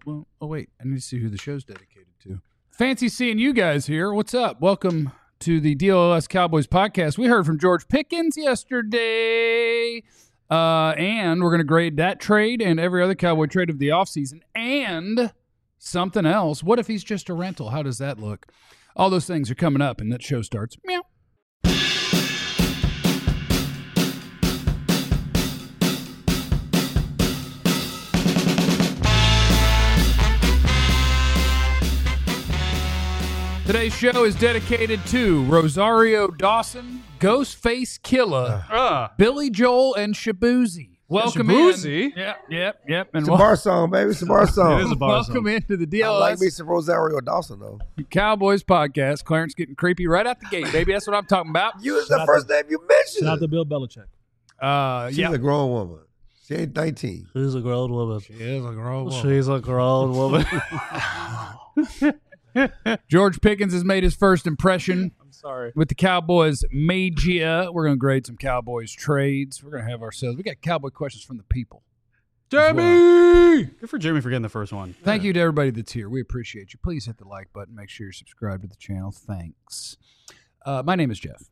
Well, oh, wait. I need to see who the show's dedicated to. Fancy seeing you guys here. What's up? Welcome to the DLS Cowboys podcast. We heard from George Pickens yesterday. And we're going to grade that trade and every other Cowboy trade of the offseason. And something else. What if he's just a rental? How does that look? All those things are coming up, and that show starts. Meow. Today's show is dedicated to Rosario Dawson, Ghostface Killer, Billy Joel, and Shabuzi. Welcome Shabuzi? in. Yep. And It's a bar song, baby. It's a bar song. It is a bar welcome song. into the I DLS like me some Rosario Dawson, though. Cowboys podcast. Clarence getting creepy right out the gate, baby. That's what I'm talking about. You was the first name you mentioned. Shout out to Bill Belichick. She's a grown woman. She ain't 19. She's a grown woman. She is a grown woman. She's a grown woman. George Pickens has made his first impression. I'm sorry. With the Cowboys media. We're going to grade some Cowboys trades. We're going to have ourselves. We got Cowboy questions from the people. Jeremy! Good for Jeremy for getting the first one. Thank you to everybody that's here. We appreciate you. Please hit the like button. Make sure you're subscribed to the channel. Thanks. My name is Jeff.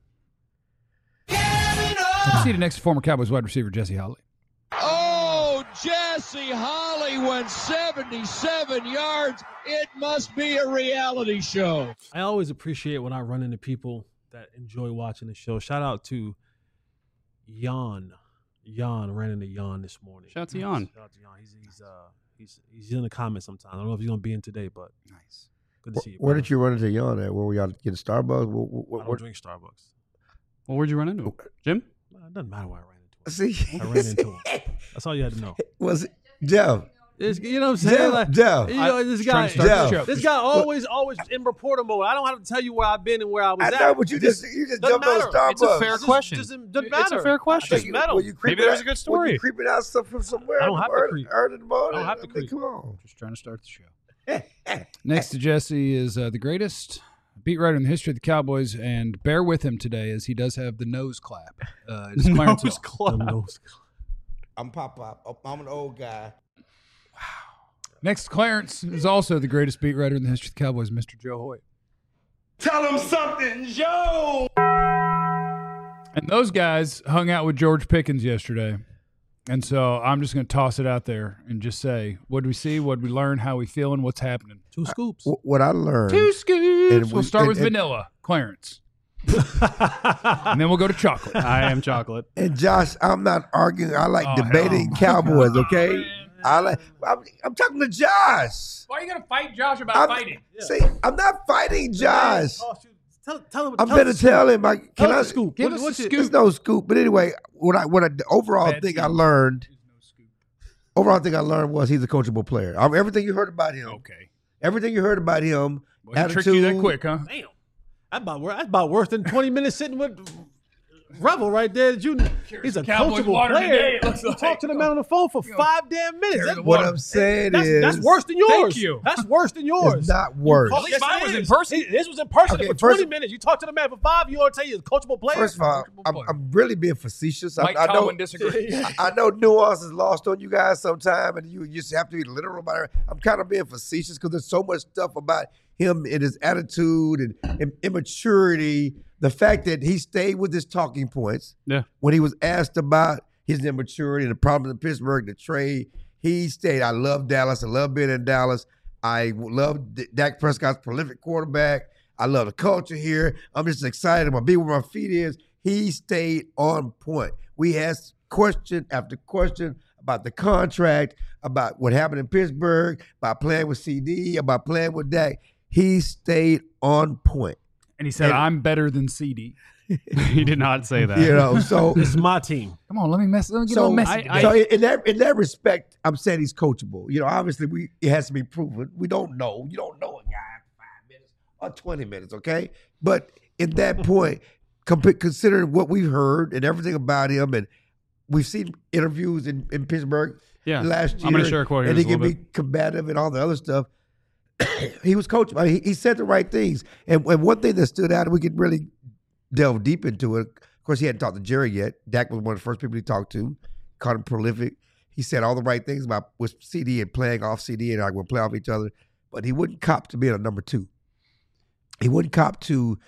Seated next to former Cowboys wide receiver Jesse Holley. Oh, Jesse Holley went 77 yards. It must be a reality show. I always appreciate when I run into people that enjoy watching the show. Shout out to Jan. Jan ran into Jan this morning. Shout out to Jan. Shout out to Jan. He's in the comments sometimes. I don't know if he's gonna be in today, but Nice. good to see you. Where brother. did you run into Jan at? Where were y'all getting Starbucks? I don't drink Starbucks. Well, where'd you run into him? Jim? It doesn't matter where I ran into him. See? I ran into him. That's all you had to know. Was it Jeff? You know what I'm saying? Jeff. You know, this Trying guy, to start the show. this guy always in reporter mode. I don't have to tell you where I've been and where I was I at. know, but you just doesn't jumped on matter. Starbucks. It's a fair It question. doesn't It's matter. a fair question. Doesn't matter. Were you creeping Maybe there's out- a good Were story. you creeping out stuff from somewhere? I don't have to creep. Early in the morning. I don't have to I mean, creep. Come on. Just trying to start the show. Next to Jesse is the greatest beat writer in the history of the Cowboys, and bear with him today as he does have the nose clap. It's Clarence Nose Hill. club. I'm Pop. I'm an old guy. Next to Clarence is also the greatest beat writer in the history of the Cowboys, Mr. Joe Hoyt. Tell him something, Joe. And those guys hung out with George Pickens yesterday. And so I'm just going to toss it out there and just say, what did we see? What did we learn? How we feeling? What's happening? 2 scoops. What I learned. Two scoops. And We'll we- start with and- vanilla, Clarence. And then we'll go to chocolate. I am chocolate. And Josh, I'm not arguing. I like Oh, debating hell. Cowboys, okay? I'm talking to Josh. Why are you going to fight Josh about I'm, fighting? See, I'm not fighting Josh. Tell him. I'm better tell him. Can Tell I us the scoop. Give What- us what's the it- scoop. There's no scoop. But anyway, the overall Bad thing I team. learned. Was he's a coachable player. Everything you heard about him. Okay. Everything you heard about him. Well, he tricked you that quick, huh? Damn. That's about worse than 20 minutes sitting with Revel right there. He's a Cowboys coachable water player. today, it looks You like. talked to the man on the phone for 5 damn minutes. Carry the What water. I'm saying That's is worse than yours. Thank you. That's worse than yours. it's not worse. Yes, least mine it was in is. person. This was in person Okay, for 20 first- minutes. You talked to the man for 5. You ought to tell you he's a coachable player. First of all, Comfortable player. I'm really being facetious. Mike I know. Tomlin disagrees. I know nuance is lost on you guys sometime, and you just have to be literal about it. I'm kind of being facetious because there's so much stuff about him and his attitude and immaturity. The fact that he stayed with his talking points Yeah. when he was asked about his immaturity and the problems in Pittsburgh, the trade, he stayed. I love Dallas. I love being in Dallas. I love Dak Prescott's prolific quarterback. I love the culture here. I'm just excited. I'm going to be where my feet is. He stayed on point. We asked question after question about the contract, about what happened in Pittsburgh, about playing with CD, about playing with Dak. He stayed on point. And he said, I'm better than CD. He did not say that. You know, so It's my team. Come on, let me get a little so, messy. so in that respect, I'm saying he's coachable. You know, obviously it has to be proven. We don't know. You don't know a guy in 5 minutes or 20 minutes, okay? But at that point, considering what we've heard and everything about him, and we've seen interviews in Pittsburgh Yeah. last year. I'm going to share a quote here and in he just a can little be bit. combative and all the other stuff. He was coachable. I mean, he said the right things. And one thing that stood out, and we could really delve deep into it. Of course, he hadn't talked to Jerry yet. Dak was one of the first people he talked to. Called him prolific. he said all the right things about with CD and playing off CD and we'll play off each other, but he wouldn't cop to being a number 2. He wouldn't cop to,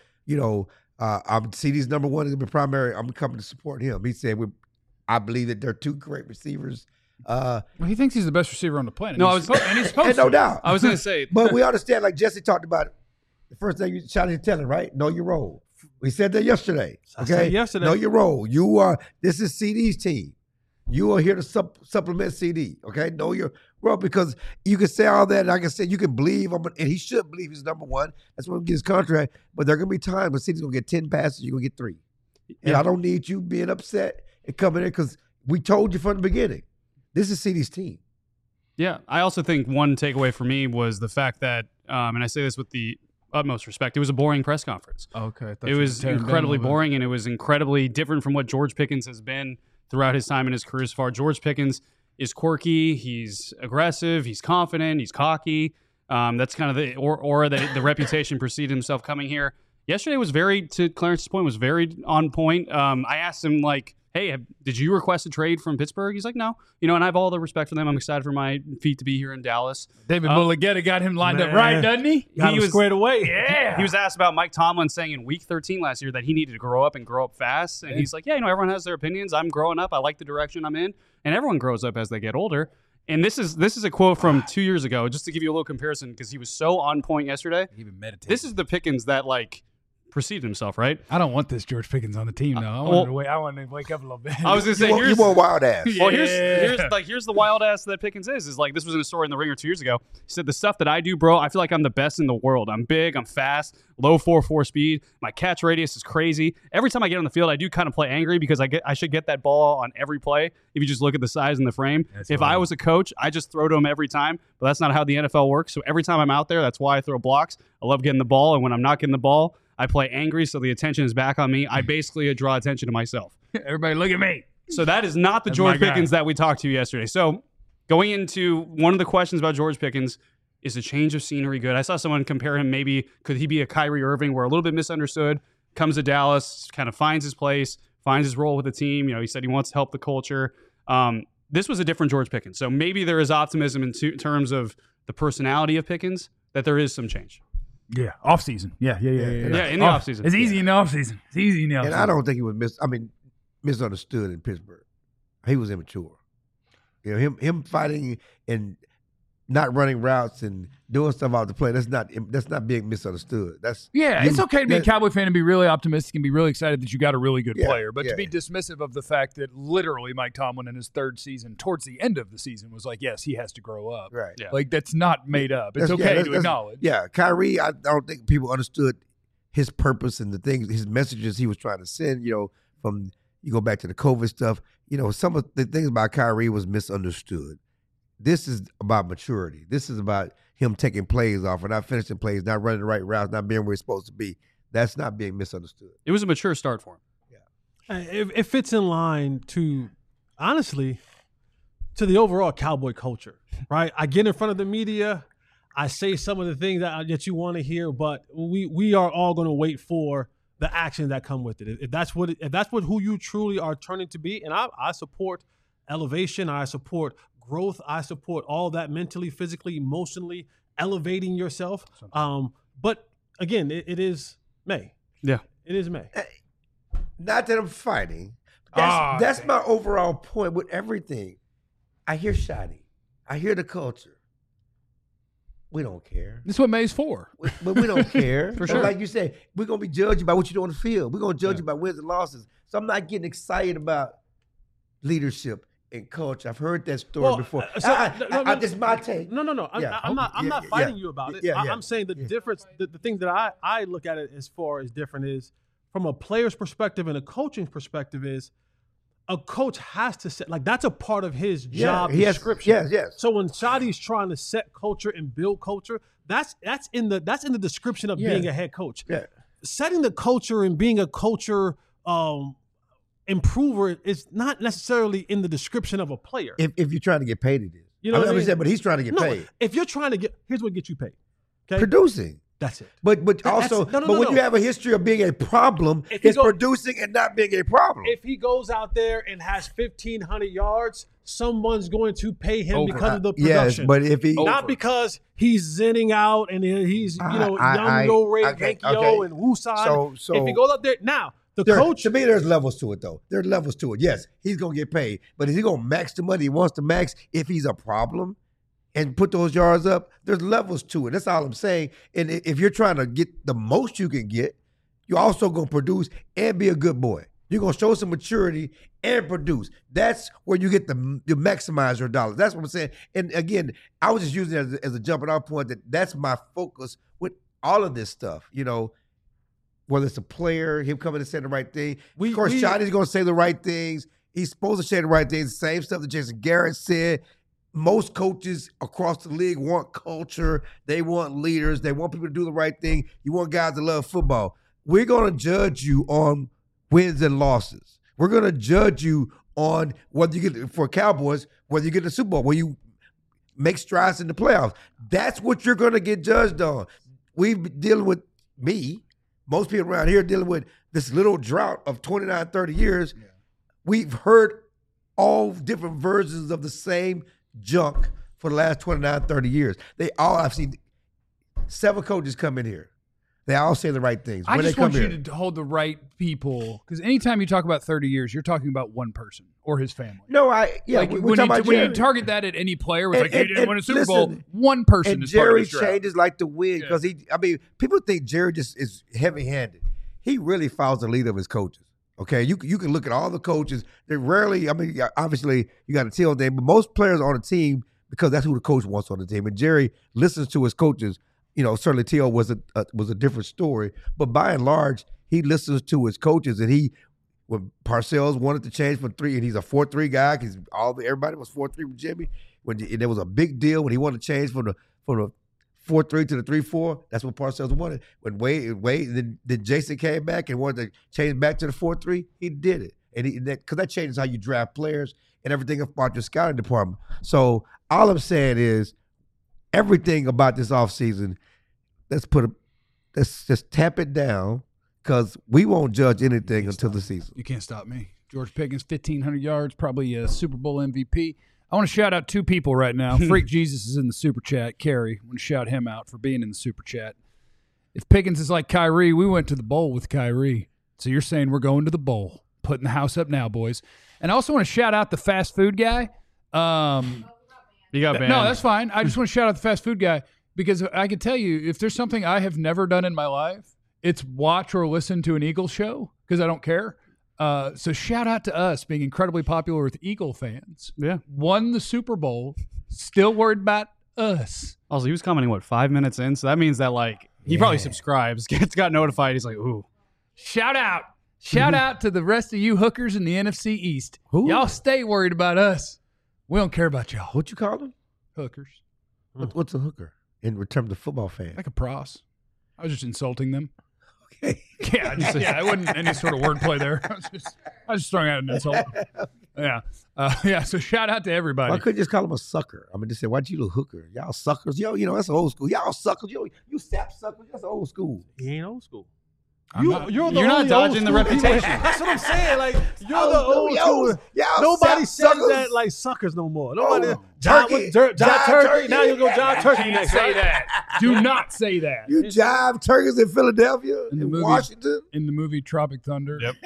CD's number 1 is going to be primary. I'm coming to support him. He said, I believe that they're 2 great receivers. Well, he thinks he's the best receiver on the planet. No, and he's supposed no to. doubt. I was going to say, But we understand, like Jesse talked about, the first thing you shot is telling, right? Know your role. We said that yesterday. I Okay, said yesterday. Know your role. This is CD's team. You are here to supplement CD. Okay, know your role, because you can say all that, and like I said, you can believe and he should believe he's number 1. That's when he gets his contract. But there are gonna be times when CD's gonna get 10 passes, you're gonna get 3. And I don't need you being upset and coming in, because we told you from the beginning, this is CD's team. yeah, I also think one takeaway for me was the fact that, and I say this with the utmost respect, it was a boring press conference. Okay. It was incredibly boring, and it was incredibly different from what George Pickens has been throughout his time in his career so far. George Pickens is quirky, he's aggressive, he's confident, he's cocky. That's kind of the aura that the reputation preceded himself coming here. Yesterday was to Clarence's point, was very on point. I asked him, like, hey, did you request a trade from Pittsburgh? He's like, no. And I have all the respect for them. I'm excited for my feet to be here in Dallas. David Mulligetta got him lined up right, doesn't he? Got him squared away. Yeah. He was asked about Mike Tomlin saying in week 13 last year that he needed to grow up and grow up fast. And he's like, yeah, everyone has their opinions. I'm growing up. I like the direction I'm in. And everyone grows up as they get older. And this is a quote from 2 years ago, just to give you a little comparison, because he was so on point yesterday. He even meditated. This is the Pickens that, like, preceded himself, right? I don't want this George Pickens on the team now. I want to wake up a little bit. I was going to say, You want wild ass. Well, here's the wild ass that Pickens is like, this was in a story in the Ringer 2 years ago. He said, the stuff that I do, bro, I feel like I'm the best in the world. I'm big, I'm fast, low 4.4 speed. My catch radius is crazy. Every time I get on the field, I do kind of play angry because I should get that ball on every play. If you just look at the size and the frame, if I was a coach, I just throw to him every time. But that's not how the NFL works. So every time I'm out there, that's why I throw blocks. I love getting the ball, and when I'm not getting the ball, I play angry, so the attention is back on me. I basically draw attention to myself. Everybody look at me. So that is not the George Pickens that we talked to yesterday. So going into one of the questions about George Pickens, is a change of scenery good? I saw someone compare him, maybe could he be a Kyrie Irving, where a little bit misunderstood, comes to Dallas, kind of finds his place, finds his role with the team. He said he wants to help the culture. This was a different George Pickens. So maybe there is optimism in terms of the personality of Pickens, that there is some change. Yeah, off season. Yeah, in the off season. It's easy in the off season. And I don't think he was misunderstood in Pittsburgh. He was immature. Him fighting and not running routes and doing stuff out the play, that's not being misunderstood. It's okay to be a Cowboy fan and be really optimistic and be really excited that you got a really good player, but to be dismissive of the fact that literally Mike Tomlin in his 3rd season, towards the end of the season, was like, yes, he has to grow up. Right. Yeah. Like, that's not made up. It's okay to acknowledge. Yeah, Kyrie, I don't think people understood his purpose and the things, his messages he was trying to send, from, you go back to the COVID stuff, some of the things about Kyrie was misunderstood. This is about maturity. This is about him taking plays off or not finishing plays, not running the right routes, not being where he's supposed to be. That's not being misunderstood. It was a mature start for him. Yeah. It fits in line to, honestly, to the overall Cowboy culture, right? I get in front of the media. I say some of the things that you want to hear, but we are all going to wait for the action that come with it. If that's what who you truly are turning to be, and I support elevation, I support growth, I support all that mentally, physically, emotionally, elevating yourself. But again, it is May. Yeah, it is May. Not that I'm fighting. That's my overall point with everything. I hear Shotty. I hear the culture. We don't care. This is what May's for. But we don't care. For sure. Like you said, we're going to be judged by what you do on the field. We're going to judge you by wins and losses. So I'm not getting excited about leadership and culture. I've heard that story before. This is my take. No. I'm not fighting you about it. I'm saying the difference, the thing that I look at it as far as different is, from a player's perspective and a coaching perspective, is a coach has to set, like, that's a part of his job description. Yes. So when Shotty's trying to set culture and build culture, that's in the description of being a head coach. Yeah. Setting the culture and being a culture improver is not necessarily in the description of a player. If you're trying to get paid, it is. You know what I mean? But he's trying to get paid. If you're trying to here's what gets you paid. Okay? Producing. That's it. But also, when you have a history of being a problem, it's producing and not being a problem. If he goes out there and has 1,500 yards, someone's going to pay him because of the production. Yes, but if he not because he's zenning out and he's Young Ray Yankee and Wooside. So if he goes out there now, coach to me, there's levels to it though. There's levels to it. Yes, he's gonna get paid, but is he gonna max the money he wants to max if he's a problem? And put those yards up, there's levels to it. That's all I'm saying. And if you're trying to get the most you can get, you're also going to produce and be a good boy. You're going to show some maturity and produce. That's where you get you maximize your dollars. That's what I'm saying. And again, I was just using it as a jumping off point that's my focus with all of this stuff. You know, whether it's a player, him coming to say the right thing. Of course, Shotty's going to say the right things. He's supposed to say the right things. The same stuff that Jason Garrett said. Most coaches across the league want culture. They want leaders. They want people to do the right thing. You want guys to love football. We're going to judge you on wins and losses. We're going to judge you on whether you get, for Cowboys, whether you get the Super Bowl, whether you make strides in the playoffs. That's what you're going to get judged on. We've been dealing with most people around here dealing with this little drought of 29, 30 years. Yeah. We've heard all different versions of the same junk for the last 29, 30 years. I've seen 7 coaches come in here. They all say the right things. I just want you to hold the right people, because anytime you talk about 30 years, you're talking about one person or his family. No, when you target that at any player, it's he didn't win a Super Bowl. One person and is Jerry changes like to win because people think Jerry just is heavy-handed. He really follows the lead of his coaches. Okay, you can look at all the coaches. They rarely, obviously you got a team thing, but most players on the team, because that's who the coach wants on the team. And Jerry listens to his coaches. You know, certainly T.O. was a different story, but by and large, he listens to his coaches. And when Parcells wanted to change from 3, and he's a 4-3 guy because everybody was 4-3 with Jimmy. And there was a big deal when he wanted to change from the 4-3 to the 3-4. That's what Parcells wanted. When Wade, then Jason came back and wanted to change back to the 4-3. He did it, and because that changes how you draft players and everything about your scouting department. So all I'm saying is, everything about this offseason, let's just tap it down, because we won't judge anything until the season. You can't stop me. George Pickens, 1,500 yards, probably a Super Bowl MVP. I want to shout out 2 people right now. Freak Jesus is in the Super Chat. Kerry, I want to shout him out for being in the Super Chat. If Pickens is like Kyrie, we went to the bowl with Kyrie. So you're saying we're going to the bowl. Putting the house up now, boys. And I also want to shout out the fast food guy. You got banned. No, that's fine. I just want to shout out the fast food guy, because I can tell you, if there's something I have never done in my life, it's watch or listen to an Eagles show, because I don't care. So shout out to us being incredibly popular with Eagle fans. Yeah. Won the Super Bowl, still worried about us. Also, he was commenting, 5 minutes in? So that means that, he probably subscribes, got notified. He's like, ooh. Shout out. Shout out to the rest of you hookers in the NFC East. Who? Y'all stay worried about us. We don't care about y'all. What you call them? Hookers. What's a hooker in terms of football fan? Like a pros. I was just insulting them. Okay. Yeah, I wasn't any sort of wordplay there. I was just throwing out an insult. Yeah. So shout out to everybody. Why couldn't you just call him a sucker? Just say, why'd you a hooker? Y'all suckers. Yo, that's old school. Y'all suckers. You sap suckers. That's old school. He ain't old school. You're not dodging the reputation. That's what I'm saying. You're the old school. Nobody says that like suckers no more. Nobody. Turkey. Jive turkey. Now you'll go jive turkey next. Say that. Do not say that. You jive turkeys in Philadelphia, in Washington. In the movie Tropic Thunder. Yep.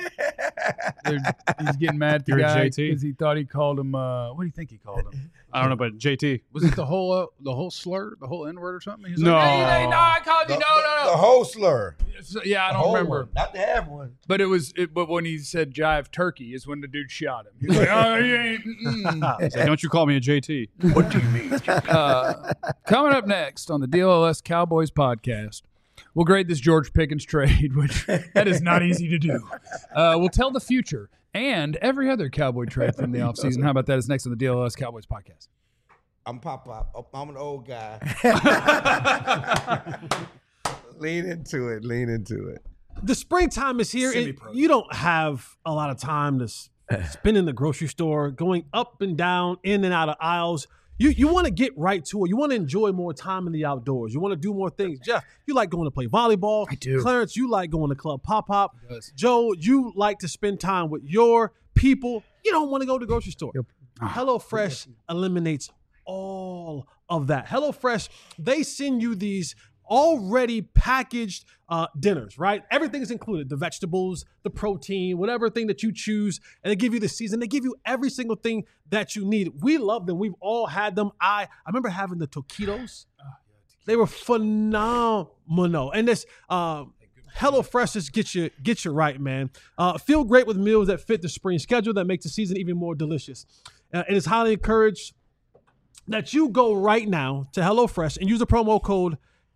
He's getting mad at the guy because he thought he called him. What do you think he called him? I don't know, but JT. Was it the whole slur, the whole N-word or something? He's no. Like, hey, no, I called you. No. The whole slur. Yeah, I don't remember. One. Not to have one. But but when he said jive turkey is when the dude shot him. He's like, oh, you ain't. Don't you call me a JT. What do you mean? Coming up next on the DLS Cowboys podcast, we'll grade this George Pickens trade, which that is not easy to do. We'll tell the future and every other Cowboy trade from the offseason. How about that? Is next on the DLS Cowboys podcast. I'm Pop. I'm an old guy. Lean into it. The springtime is here. And you don't have a lot of time to spend in the grocery store, going up and down, in and out of aisles. You want to get right to it. You want to enjoy more time in the outdoors. You want to do more things. Jeff, you like going to play volleyball. I do. Clarence, you like going to Club Pop. He does. Joe, you like to spend time with your people. You don't want to go to the grocery store. HelloFresh eliminates all of that. HelloFresh, they send you these already packaged dinners, right? Everything is included. The vegetables, the protein, whatever thing that you choose. And they give you the season. They give you every single thing that you need. We love them. We've all had them. I remember having the taquitos. They were phenomenal. And this HelloFresh just get you right, man. Feel great with meals that fit the spring schedule that makes the season even more delicious. It is highly encouraged that you go right now to HelloFresh and use the promo code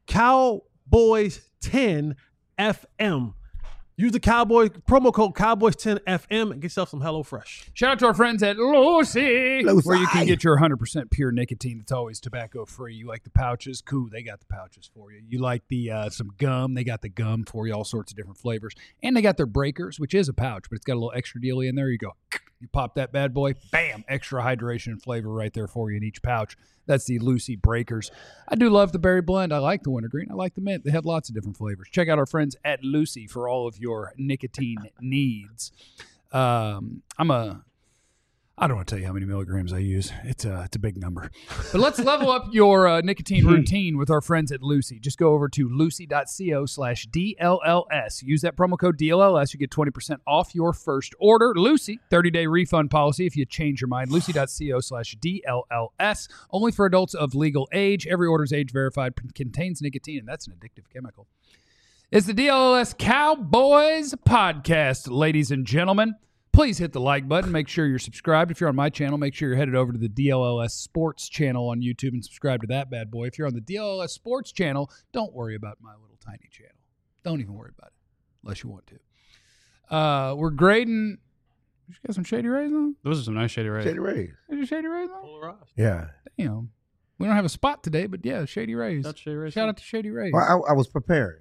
Cowboys10FM. Use the promo code Cowboys10FM and get yourself some HelloFresh. Shout out to our friends at Lucy, where you can get your 100% pure nicotine. It's always tobacco free. You like the pouches? Cool, they got the pouches for you. You like the some gum? They got the gum for you, all sorts of different flavors. And they got their breakers, which is a pouch, but it's got a little extra dealie in there. You go, you pop that bad boy, bam, extra hydration and flavor right there for you in each pouch. That's the Lucy Breakers. I do love the berry blend. I like the wintergreen. I like the mint. They have lots of different flavors. Check out our friends at Lucy for all of your nicotine needs. I don't want to tell you how many milligrams I use. It's a big number. But let's level up your nicotine routine with our friends at Lucy. Just go over to lucy.co/DLLS. Use that promo code DLLS. You get 20% off your first order. Lucy, 30-day refund policy if you change your mind. Lucy.co/DLLS. Only for adults of legal age. Every order is age verified. Contains nicotine, and that's an addictive chemical. It's the DLLS Cowboys podcast, ladies and gentlemen. Please hit the like button. Make sure you're subscribed. If you're on my channel, make sure you're headed over to the DLLS Sports channel on YouTube and subscribe to that bad boy. If you're on the DLLS Sports channel, don't worry about my little tiny channel. Don't even worry about it unless you want to. We're grading. You got some Shady Rays on? Those are some nice Shady Rays. Shady Rays. Is your Shady Rays on? Polarized. Yeah. Damn. We don't have a spot today, but yeah, Shady Rays. That's Shady Rays. Shout out to Shady Rays. Well, I was preparing.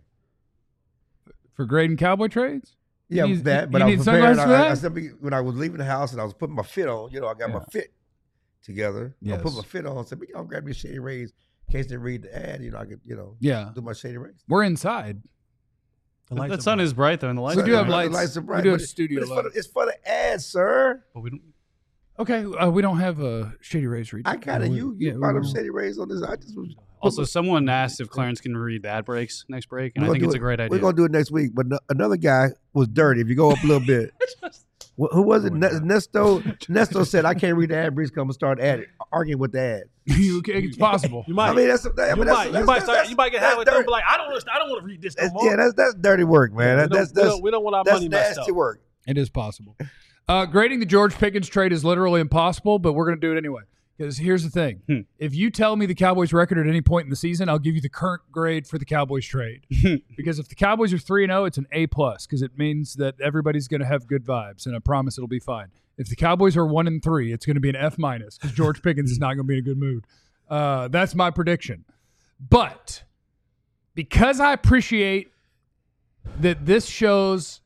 For grading cowboy trades? Yeah, You need- that. But you I need was preparing. sunglasses for that? I said when I was leaving the house and I was putting my fit on, I got my fit together. Yes. I put my fit on. I said, I'll grab me a Shady Rays in case they read the ad. I could, Yeah. do my Shady Rays. We're inside. The sun is bright though, and the lights. We do have The lights. lights are bright, We do have but studio it's lights. it's for the ad, sir. But we don't. Okay, we don't have a Shady Rays read. I got it. You brought them Shady Rays on this. I just was. Also, someone asked if Clarence can read the ad breaks next break, and I think it's a great idea. We're gonna do it next week. But another guy was dirty. If you go up a little bit, who was it? Nesto. Nesto said, "I can't read the ad breaks. Come and start arguing with the ad." It's possible. You might. I mean, that's you might get halfway through and be like, I don't want to read this no more. Yeah, that's dirty work, man. We don't want our money messed nasty up. work. It is possible. Grading the George Pickens trade is literally impossible, but we're going to do it anyway. Because here's the thing. If you tell me the Cowboys record at any point in the season, I'll give you the current grade for the Cowboys trade. Because if the Cowboys are 3-0, it's an A+, because it means that everybody's going to have good vibes, and I promise it'll be fine. If the Cowboys are 1-3, it's going to be an F-, because George Pickens is not going to be in a good mood. That's my prediction. But because I appreciate that this shows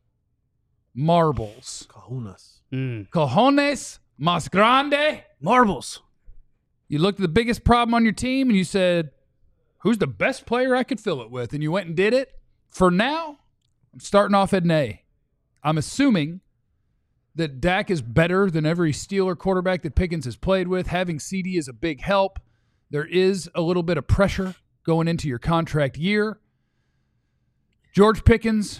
marbles. Cojones más grande. Marbles. You looked at the biggest problem on your team and you said, who's the best player I could fill it with? And you went and did it. For now, I'm starting off at an A. I'm assuming that Dak is better than every Steeler quarterback that Pickens has played with. Having CD is a big help. There is a little bit of pressure going into your contract year. George Pickens,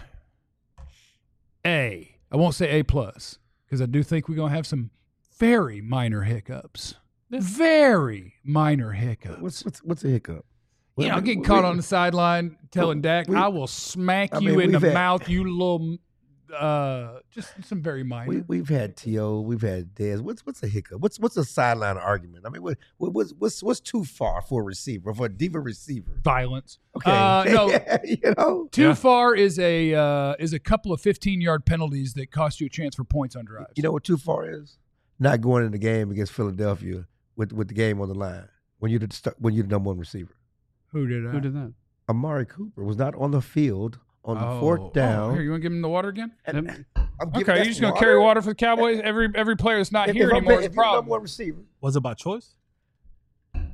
A. I won't say A+, because I do think we're going to have some very minor hiccups. Very minor hiccups. What's a hiccup? Getting caught on the sideline telling Dak, I will smack you in the mouth, you little just some very minor. We've had T.O., we've had Dez. What's a hiccup? What's a sideline argument? I mean, what's too far for a receiver, for a diva receiver? Violence. Okay. No, too far is a couple of 15-yard penalties that cost you a chance for points on drives. You know what too far is? Not going in the game against Philadelphia with the game on the line when you're the number one receiver. Who did that? Who did that? Amari Cooper was not on the field on the fourth down. Here, you want to give him the water again? Okay, You're just going to carry water for the Cowboys? Every player that's not here anymore is a if you're the number problem. one receiver. Was it by choice?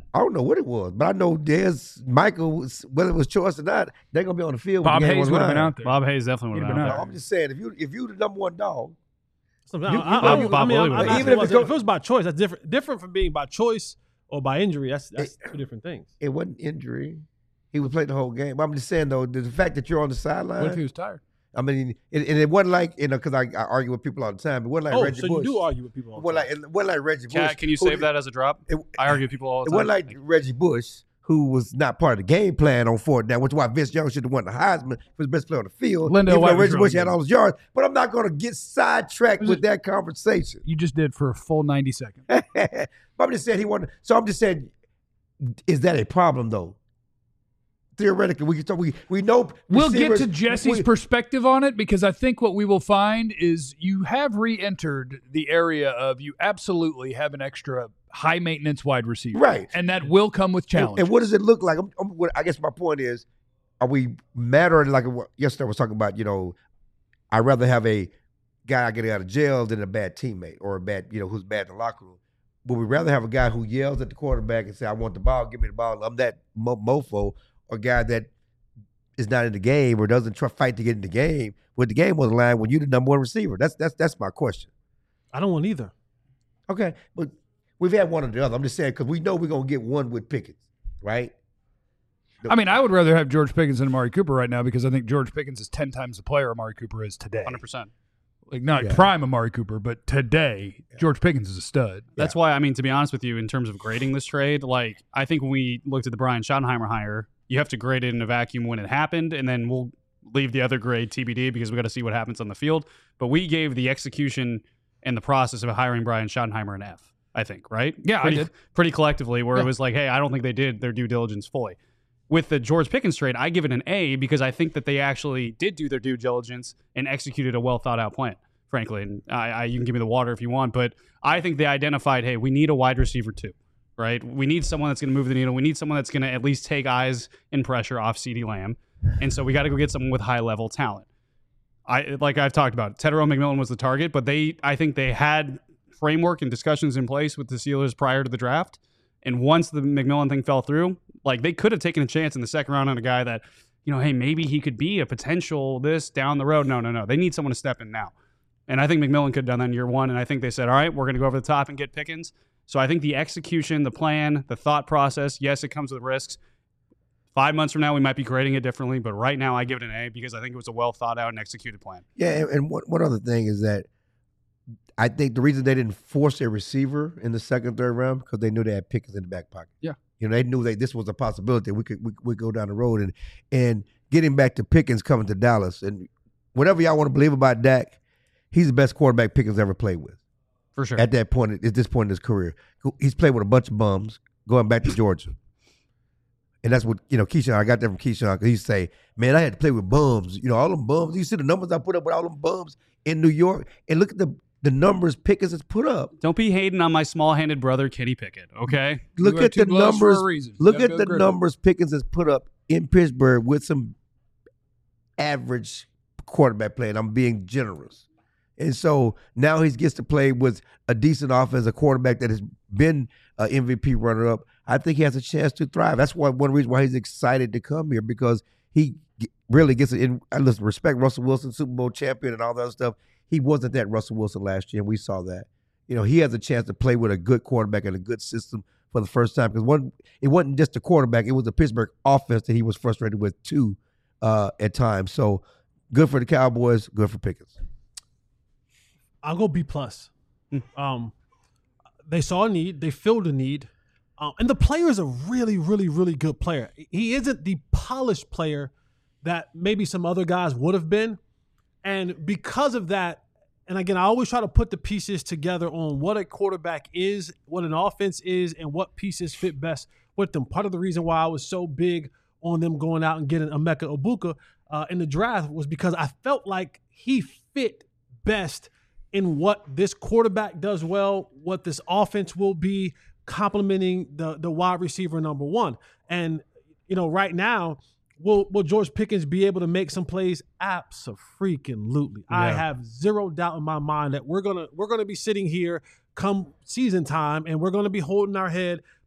I don't know what it was, but I know there's Michael, whether it was choice or not, they're going to be on the field. Bob when the game Hayes was would have been live. out there. Bob Hayes definitely would have been out No, there. I'm just saying, if you the number one dog, So, You- I'm Bob Willie would- asking even if was- it's go- if it was by choice, that's different. Different from being by choice or by injury. That's two different things. it wasn't injury. He would play the whole game. But I'm just saying, though, the fact that you're on the sideline. What if he was tired? I mean, it wasn't like, because I argue with people all the time. It wasn't like Reggie so Bush. you do argue with people all It the time. wasn't like Reggie Bush. Cat, can you who- save that as a drop? It, I argue with people all the it time. wasn't like Reggie Bush, who was not part of the game plan on fourth down, which is why Vince Young should have won the Heisman. He was the best player on the field. Lindell even White though was Reggie really Bush had good. all his yards. But I'm not going to get sidetracked with that conversation. You just did for a full 90 seconds. But I'm just saying he won. So I'm just saying, is that a problem, though? Theoretically, we know. We'll get receivers- to Jesse's we- perspective on it because I think what we will find is you have re-entered the area of you absolutely have an extra high maintenance wide receiver, Right. And that will come with And, challenges. and what does it look like? I guess my point is, are we mattering like yesterday I was talking about? I'd rather have a guy getting out of jail than a bad teammate or a bad, who's bad in the locker room. Would we rather have a guy who yells at the quarterback and say, "I want the ball, give me the ball"? I'm that mofo, or a guy that is not in the game or doesn't fight to get in the game with the game on the line when you're the number one receiver. That's my question. I don't want either. Okay, but we've had one or the other. I'm just saying because we know we're gonna get one with Pickens, right? I mean, I would rather have George Pickens than Amari Cooper right now because I think George Pickens is 10 times the player Amari Cooper is today. 100%. Like not Yeah. prime Amari Cooper, but today George Pickens is a stud. That's why, I mean, to be honest with you, in terms of grading this trade, like, I think when we looked at the Brian Schottenheimer hire, you have to grade it in a vacuum when it happened, and then we'll leave the other grade TBD because we got to see what happens on the field. But we gave the execution and the process of hiring Brian Schottenheimer an F, I think, right? Yeah, I did. Pretty collectively, where Yeah. it was like, hey, I don't think they did their due diligence fully. With the George Pickens trade, I give it an A because I think that they actually did do their due diligence and executed a well thought out plan, frankly. And you can give me the water if you want, but I think they identified, hey, we need a wide receiver too, right? We need someone that's going to move the needle. We need someone that's going to at least take eyes and pressure off CeeDee Lamb. And so we got to go get someone with high level talent. Like I've talked about, Tedero McMillan was the target, but I think they had framework and discussions in place with the Steelers prior to the draft. And once the McMillan thing fell through, like they could have taken a chance in the second round on a guy that, hey, maybe he could be a potential this down the road. No. They need someone to step in now. And I think McMillan could have done that in year one. And I think they said, all right, we're going to go over the top and get Pickens. So I think the execution, the plan, the thought process, yes, it comes with risks. 5 months from now, we might be grading it differently. But right now, I give it an A because I think it was a well thought out and executed plan. Yeah, and one other thing is that I think the reason they didn't force a receiver in the second, third round because they knew they had Pickens in the back pocket. Yeah. They knew that this was a possibility. We could go down the road and getting back to Pickens coming to Dallas and whatever y'all want to believe about Dak, he's the best quarterback Pickens ever played with. For sure. At that point, at this point in his career, he's played with a bunch of bums going back to Georgia. And that's what, Keyshawn, I got that from Keyshawn because he say, man, I had to play with bums. All them bums. You see the numbers I put up with all them bums in New York and look at the numbers Pickens has put up. Don't be hating on my small-handed brother, Kenny Pickett, okay? Look got at two the gloves for a numbers. reason. Look Gotta at go the grip it. numbers Pickens has put up in Pittsburgh with some average quarterback play, and I'm being generous. And so now he gets to play with a decent offense, a quarterback that has been an MVP runner-up. I think he has a chance to thrive. That's one reason why he's excited to come here because he really gets it in. Listen, respect Russell Wilson, Super Bowl champion and all that other stuff. He wasn't that Russell Wilson last year, and we saw that. He has a chance to play with a good quarterback and a good system for the first time because it wasn't just a quarterback. It was the Pittsburgh offense that he was frustrated with too at times. So good for the Cowboys, good for Pickens. I'll go B+. They saw a need. They filled a need. And the player is a really, really, really good player. He isn't the polished player that maybe some other guys would have been. And because of that, and again, I always try to put the pieces together on what a quarterback is, what an offense is, and what pieces fit best with them. Part of the reason why I was so big on them going out and getting Emeka Egbuka in the draft was because I felt like he fit best in what this quarterback does well, what this offense will be, complementing the wide receiver number one. And, right now, will George Pickens be able to make some plays? Abso-freaking-lutely. Yeah. I have zero doubt in my mind that we're gonna be sitting here come season time and we're gonna be holding our head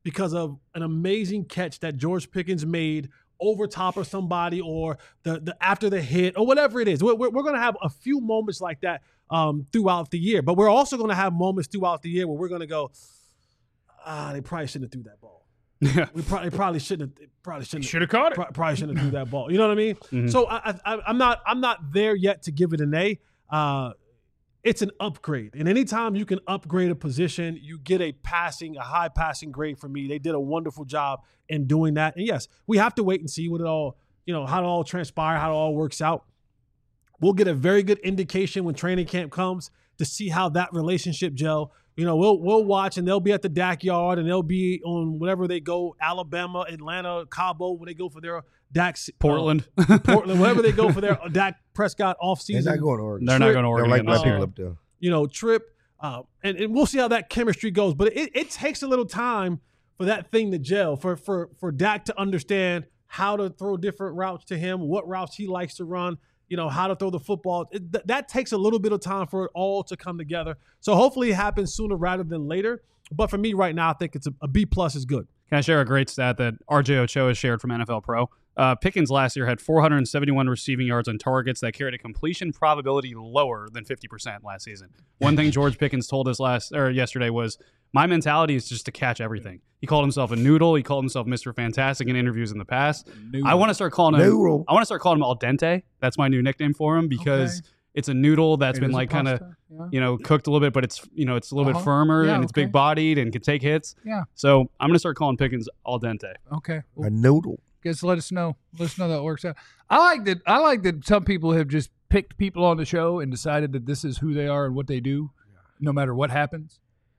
because of an amazing catch that George Pickens made over top of somebody, or the after the hit, or whatever it is. We're going to have a few moments like that throughout the year, but we're also going to have moments throughout the year where we're going to go, they probably shouldn't have threw that ball. Yeah. We probably shouldn't Should have caught it. probably shouldn't have threw that ball. You know what I mean? Mm-hmm. So I'm not there yet to give it an A. It's an upgrade, and anytime you can upgrade a position, you get a high passing grade for me. They did a wonderful job in doing that. And yes, we have to wait and see what it all, how it all transpires, how it all works out. We'll get a very good indication when training camp comes to see how that relationship gel. We'll watch, and they'll be at the Dak yard, and they'll be on whatever they go, Alabama, Atlanta, Cabo, when they go for their Dak. Portland. Wherever they go for their Dak Prescott offseason. They're not going to Oregon. They're not going to They Oregon. don't like this black year. people up there. Trip, and we'll see how that chemistry goes. But it takes a little time for that thing to gel, for Dak to understand how to throw different routes to him, what routes he likes to run, how to throw the football. That takes a little bit of time for it all to come together. So hopefully it happens sooner rather than later. But for me right now, I think it's a B+ is good. Can I share a great stat that RJ Ochoa shared from NFL Pro? Pickens last year had 471 receiving yards on targets that carried a completion probability lower than 50% last season. One thing George Pickens told us yesterday was, my mentality is just to catch everything. He called himself a noodle. He called himself Mr. Fantastic in interviews in the past. Noodle. I want to start calling him Noodle. I want to start calling him al dente. That's my new nickname for him, because it's a noodle that's It been is a like kind of pasta, cooked a little bit, but it's it's a little bit firmer, Yeah, and it's okay. big bodied and can take hits. Yeah. So I'm gonna start calling Pickens al dente. Okay. Well, A noodle. guys, let us know. Let us know that works out. I like that some people have just picked people on the show and decided that this is who they are and what they do, no matter what happens.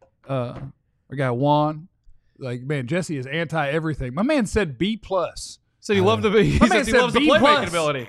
Our guy Juan, like, man, Jesse is anti everything. My man said B+. So he loved the he My man says he said loves the B+. playmaking ability.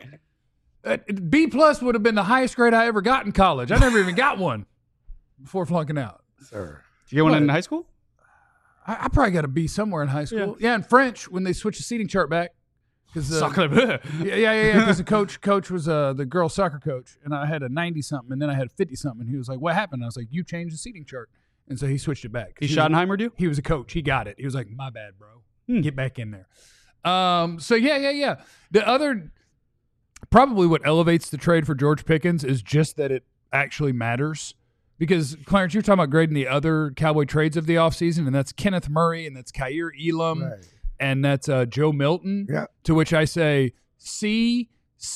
B+ would have been the highest grade I ever got in college. I never even got one before flunking out. Sir. Did you get one in What? high school? I probably got a B somewhere in high school. Yeah, in French when they switched the seating chart back. Soccer. Yeah. Because the coach was the girl soccer coach, and I had a 90-something, and then I had 50-something. And he was like, "What happened?" I was like, "You changed the seating chart," and so he switched it back. He Schottenheimered you? He was a coach. He got it. He was like, "My bad, bro. Get back in there." So yeah. The other, probably what elevates the trade for George Pickens is just that it actually matters. Because, Clarence, you're talking about grading the other Cowboy trades of the offseason, and that's Kenneth Murray, and that's Kaiir Elam, Right. and that's Joe Milton. Yeah. To which I say, C.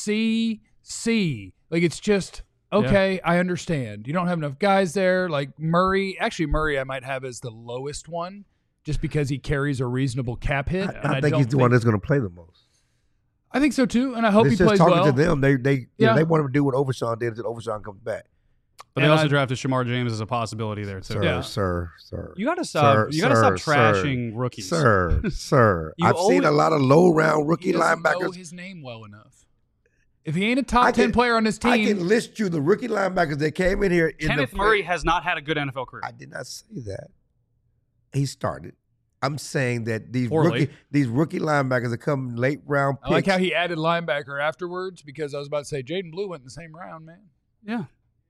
Like, it's just, okay, I understand. You don't have enough guys there. Like Murray I might have as the lowest one just because he carries a reasonable cap hit. and I think don't he's the one that's going to play the most. I think so, too, and I hope It's he just plays talking well. to them. They Yeah. want him to do what Overshawn did until Overshawn comes back. But they also drafted Shamar James as a possibility there too. Sir, Yeah. sir. You gotta stop. Sir, You gotta stop sir, trashing rookies. Sir. You I've seen a lot of low-round rookie He doesn't know linebackers. his name well enough. If he ain't a top 10 player on his team, I can list you the rookie linebackers that came in here. Kenneth Murray has not had a good NFL career. I did not say that. He started. I'm saying that these Poorly. rookie linebackers that come late round picks. I like how he added linebacker afterwards because I was about to say Jaden Blue went in the same round, man. Yeah.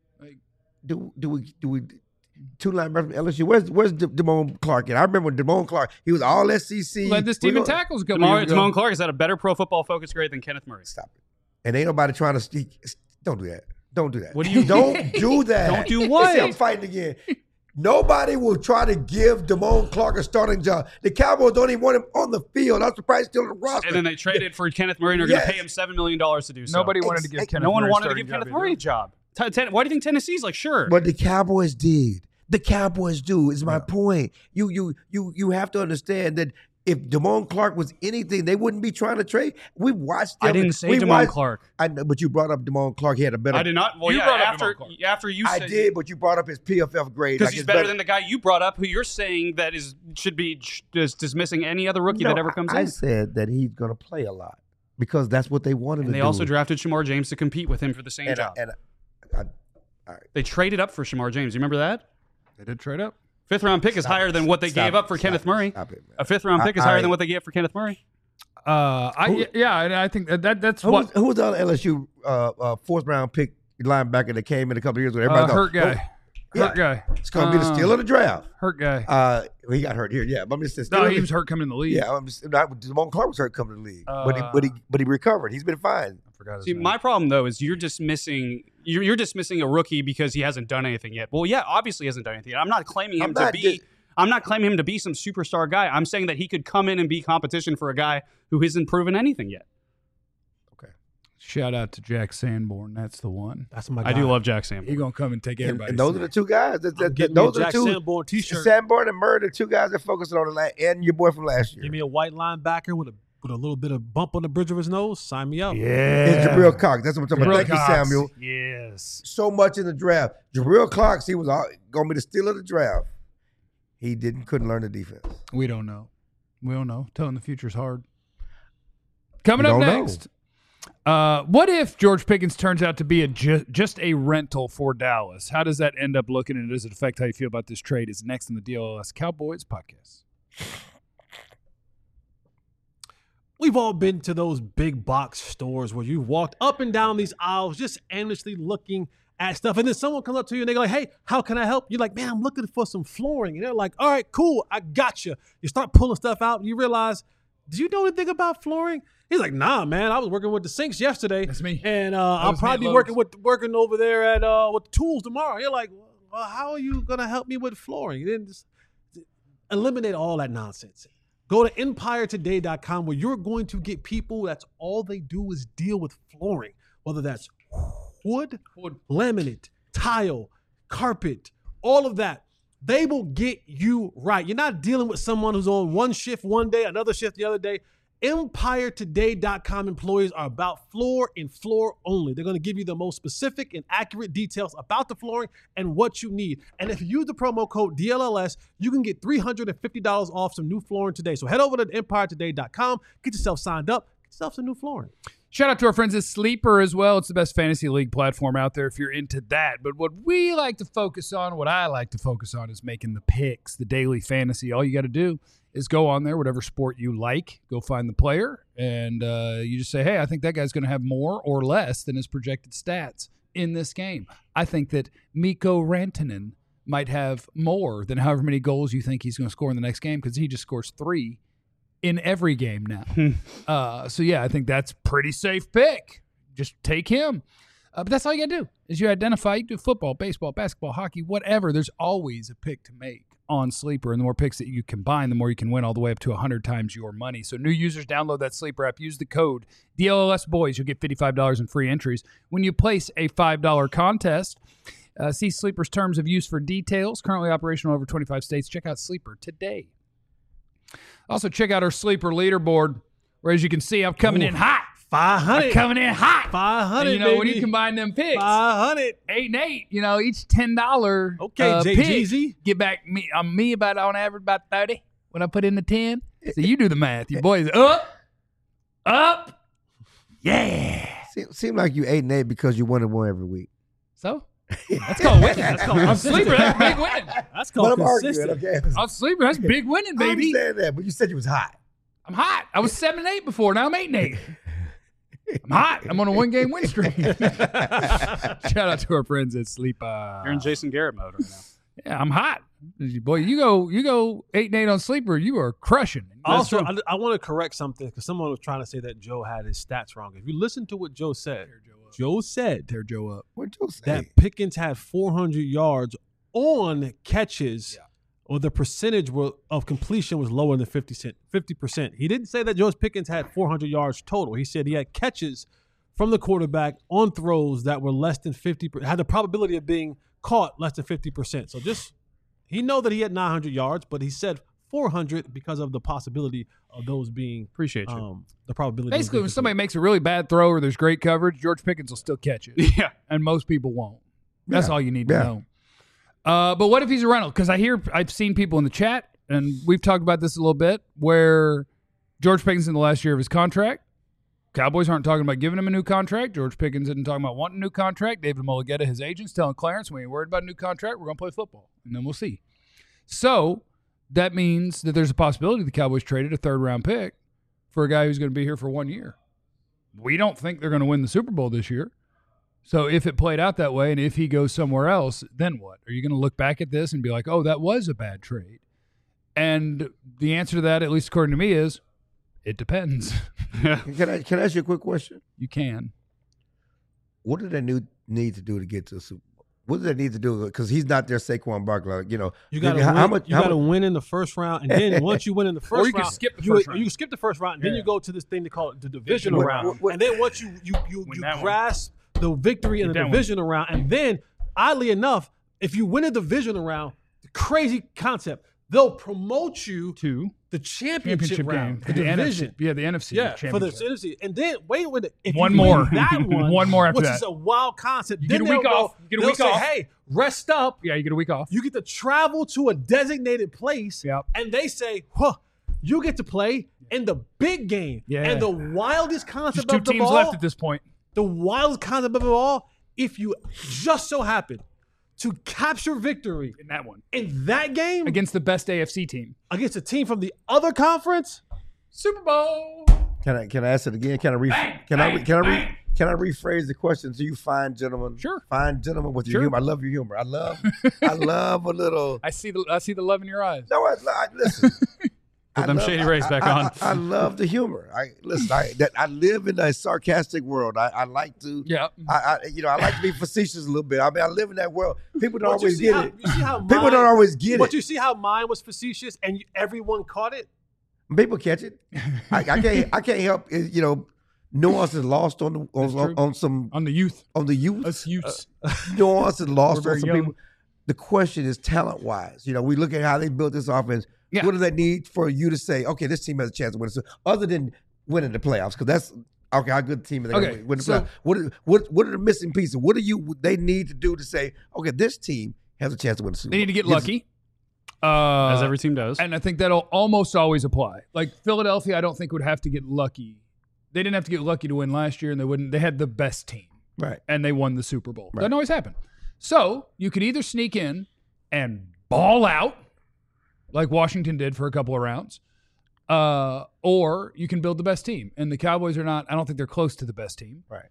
do we two linebackers from LSU? Where's Damone Clark at? I remember when Damone Clark, he was all SEC. Led this team in tackles a couple years ago. Damone Clark has had a better Pro Football Focus grade than Kenneth Murray. Stop it. And ain't nobody trying to speak. Don't do that. Don't do that. What do you- Don't do that. Don't do what? See, I'm fighting again. Nobody will try to give Damone Clark a starting job. The Cowboys don't even want him on the field. I'm surprised he's still on the roster. And then they traded for Kenneth Murray and are going to Yes. pay him $7 million to do so. Nobody wanted to give Kenneth No one Murray a wanted to starting give Kenneth job Murray a either. job. Why do you think Tennessee's like, sure? But the Cowboys did. The Cowboys do. Is my point. You have to understand that if Damone Clark was anything, they wouldn't be trying to trade. We watched them. I didn't say we Damone watched- Clark. I know, but you brought up Damone Clark. He had a better. I did not. Well, You yeah, brought up after Damone Clark. after you I said did, but you brought up his PFF grade. because like he's it's better than the guy you brought up, who you're saying that should be just dismissing any other rookie No, that ever comes I in. said that he's going to play a lot because that's what they wanted And to they do. also drafted Shamar James to compete with him for the same and, job. I, They traded up for Shamar James. You remember that? They did trade up. Fifth round pick is higher than what they stop gave it, up for stop Kenneth it, Murray. stop it, man. A fifth round pick is higher than what they gave for Kenneth Murray. And I think that's who what was, who was the other LSU fourth round pick linebacker that came in a couple of years ago? Everybody hurt thought, guy. Hurt guy. It's going to be the steal of the draft. Hurt guy. Well, he got hurt here. Yeah, but I'm just saying. No, he was hurt coming in the league. Yeah, Damone Clark was hurt coming in the league, but he recovered. He's been fine. I forgot his See, name. my problem though is you're dismissing a rookie because he hasn't done anything yet. Well, yeah, obviously he hasn't done anything yet. I'm not claiming him to be some superstar guy. I'm saying that he could come in and be competition for a guy who hasn't proven anything yet. Shout out to Jack Sanborn. That's the one. That's my guy. I do love Jack Sanborn. He's going to come and take everybody. And those are the two guys. Those are Jack the two. Sanborn t-shirt. Sanborn and Murray, the two guys that focused on and your boy from last year. Give me a white linebacker with a little bit of bump on the bridge of his nose. Sign me up. Yeah. It's Jabril Cox. That's what I'm talking about. Thank you, Samuel. Yes. So much in the draft. Jabril Cox, he was going to be the steal of the draft. He couldn't learn the defense. We don't know. Telling the future's hard. Coming up next. What if George Pickens turns out to be just a rental for Dallas? How does that end up looking, and does it affect how you feel about this trade? Is next in the DLS Cowboys podcast. We've all been to those big box stores where you walked up and down these aisles just aimlessly looking at stuff, and then someone comes up to you and they're like, hey, how can I help? You're like, man, I'm looking for some flooring. And they're like, all right, cool, I got you. You start pulling stuff out, and you realize, do you know anything about flooring? He's like, nah, man, I was working with the sinks yesterday. That's me. And I'll probably be working over there at with the tools tomorrow. You're like, well, how are you going to help me with flooring? You didn't just eliminate all that nonsense. Go to EmpireToday.com where you're going to get people that's all they do is deal with flooring, whether that's wood, laminate, tile, carpet, all of that. They will get you right. You're not dealing with someone who's on one shift one day, another shift the other day. EmpireToday.com employees are about floor and floor only. They're going to give you the most specific and accurate details about the flooring and what you need. And if you use the promo code DLLS, you can get $350 off some new flooring today. So head over to EmpireToday.com, get yourself signed up, get yourself some new flooring. Shout out to our friends at Sleeper as well. It's the best fantasy league platform out there if you're into that. But what we like to focus on, what I like to focus on is making the picks, the daily fantasy. All you got to do is go on there, whatever sport you like, go find the player, and you just say, hey, I think that guy's going to have more or less than his projected stats in this game. I think that Mikko Rantanen might have more than however many goals you think he's going to score in the next game because he just scores 3 in every game now. So, yeah, I think that's pretty safe pick. Just take him. But that's all you got to do is you identify. You do football, baseball, basketball, hockey, whatever. There's always a pick to make on Sleeper. And the more picks that you combine, the more you can win all the way up to 100 times your money. So new users, download that Sleeper app. Use the code DLLSBOYS. You'll get $55 in free entries. When you place a $5 contest, see Sleeper's terms of use for details. Currently operational in over 25 states. Check out Sleeper today. Also, check out our Sleeper leaderboard, where, as you can see, I'm coming in hot. 500. I'm coming in hot. 500, and, baby. when you combine them picks, 500. 8 and 8, each $10 Okay, JGZ. pick, get back me about on average about 30 when I put in the 10. So you do the math. Your boys up. Yeah. Seem like you 8 and 8 because you won and won every week. So that's called winning. That's called on Sleeper. That's big winning. That's called But I'm arguing, consistent. okay? On Sleeper, that's big winning, I baby. understand that, but you said you was hot. I'm hot. I was 7 and 8 before. Now I'm 8 and 8. I'm hot. I'm on a 1-game win streak. Shout out to our friends at Sleeper. You're in Jason Garrett mode right now. Yeah, I'm hot. Boy, you go 8 and 8 on Sleeper, you are crushing. Also, I want to correct something because someone was trying to say that Joe had his stats wrong. If you listen to what Joe said, Joe said tear Joe up. What Joe say? that Pickens had 400 yards on catches, or the percentage of completion was lower than 50%. He didn't say that George Pickens had 400 yards total. He said he had catches from the quarterback on throws that were less than 50%, had the probability of being caught less than 50%. So he know that he had 900 yards, but he said 400 because of the possibility of those being Appreciate you. the probability. Basically, when somebody makes a really bad throw or there's great coverage, George Pickens will still catch it. Yeah. And most people won't. That's Yeah. all you need to know. But what if he's a rental? Because I've seen people in the chat, and we've talked about this a little bit, where George Pickens in the last year of his contract, Cowboys aren't talking about giving him a new contract. George Pickens isn't talking about wanting a new contract. David Mulligetta, his agent's telling Clarence, we ain't worried about a new contract. We're going to play football, and then we'll see. So that means that there's a possibility the Cowboys traded a third-round pick for a guy who's going to be here for 1 year. We don't think they're going to win the Super Bowl this year. So if it played out that way and if he goes somewhere else, then what? Are you going to look back at this and be like, oh, that was a bad trade? And the answer to that, at least according to me, is it depends. Can I ask you a quick question? You can. What do they need to do to get to the Super Bowl? What do they need to do? Because he's not their Saquon Barkley. You know, you got to win in the first round, and then once you win in the first round, or you can skip the first round. You can skip the first round, and then you go to this thing they call it the divisional round, and then once you grasp the victory in the divisional round, and then oddly enough, if you win a divisional round, the crazy concept, they'll promote you to the championship round, the division. NFC. The NFC. Yeah, for the NFC. And then wait with it. If one you more. win that one, one more after which that. is a wild concept. You then get a week off. You get a week say, off. hey, rest up. Yeah, you get a week off. You get to travel to a designated place. Yep. And they say, you get to play in the big game. Yeah. And the wildest concept Just of the two teams ball, left at this point. the wildest concept of it all, if you just so happen to capture victory In that one. in that game Against the best AFC team. against a team from the other conference, Super Bowl. Can I ask it again? Can I rephrase the question to you, fine gentlemen? Sure. Fine gentlemen with your Sure. humor. I love your humor. I love a little. I see the love in your eyes. No, listen. Put them Shady Rays back on. I love the humor. I live in a sarcastic world. I like to. Yeah. I like to be facetious a little bit. I mean, I live in that world. People don't But you always see get how- it. you see how People mine- don't always get But it. you see how mine was facetious and everyone caught it? People catch it. I can't help. Nuance is lost on some On the youth. on the youth. Us youths. Nuance is lost We're on very some young. people. The question is talent wise. We look at how they built this offense. Yeah. What do they need for you to say, okay, this team has a chance to win? So other than winning the playoffs, because that's okay. How good team are they going Okay, to win the so- playoffs? What are the missing pieces? What they need to do to say, okay, this team has a chance to win the Super Bowl? They need to get Gives- lucky. As every team does. And I think that'll almost always apply. Like Philadelphia, I don't think would have to get lucky. They didn't have to get lucky to win last year, and they wouldn't. They had the best team, Right. and they won the Super Bowl. Right. Doesn't always happen. So you could either sneak in and ball out, like Washington did for a couple of rounds, or you can build the best team. And the Cowboys are not. I don't think they're close to the best team. Right.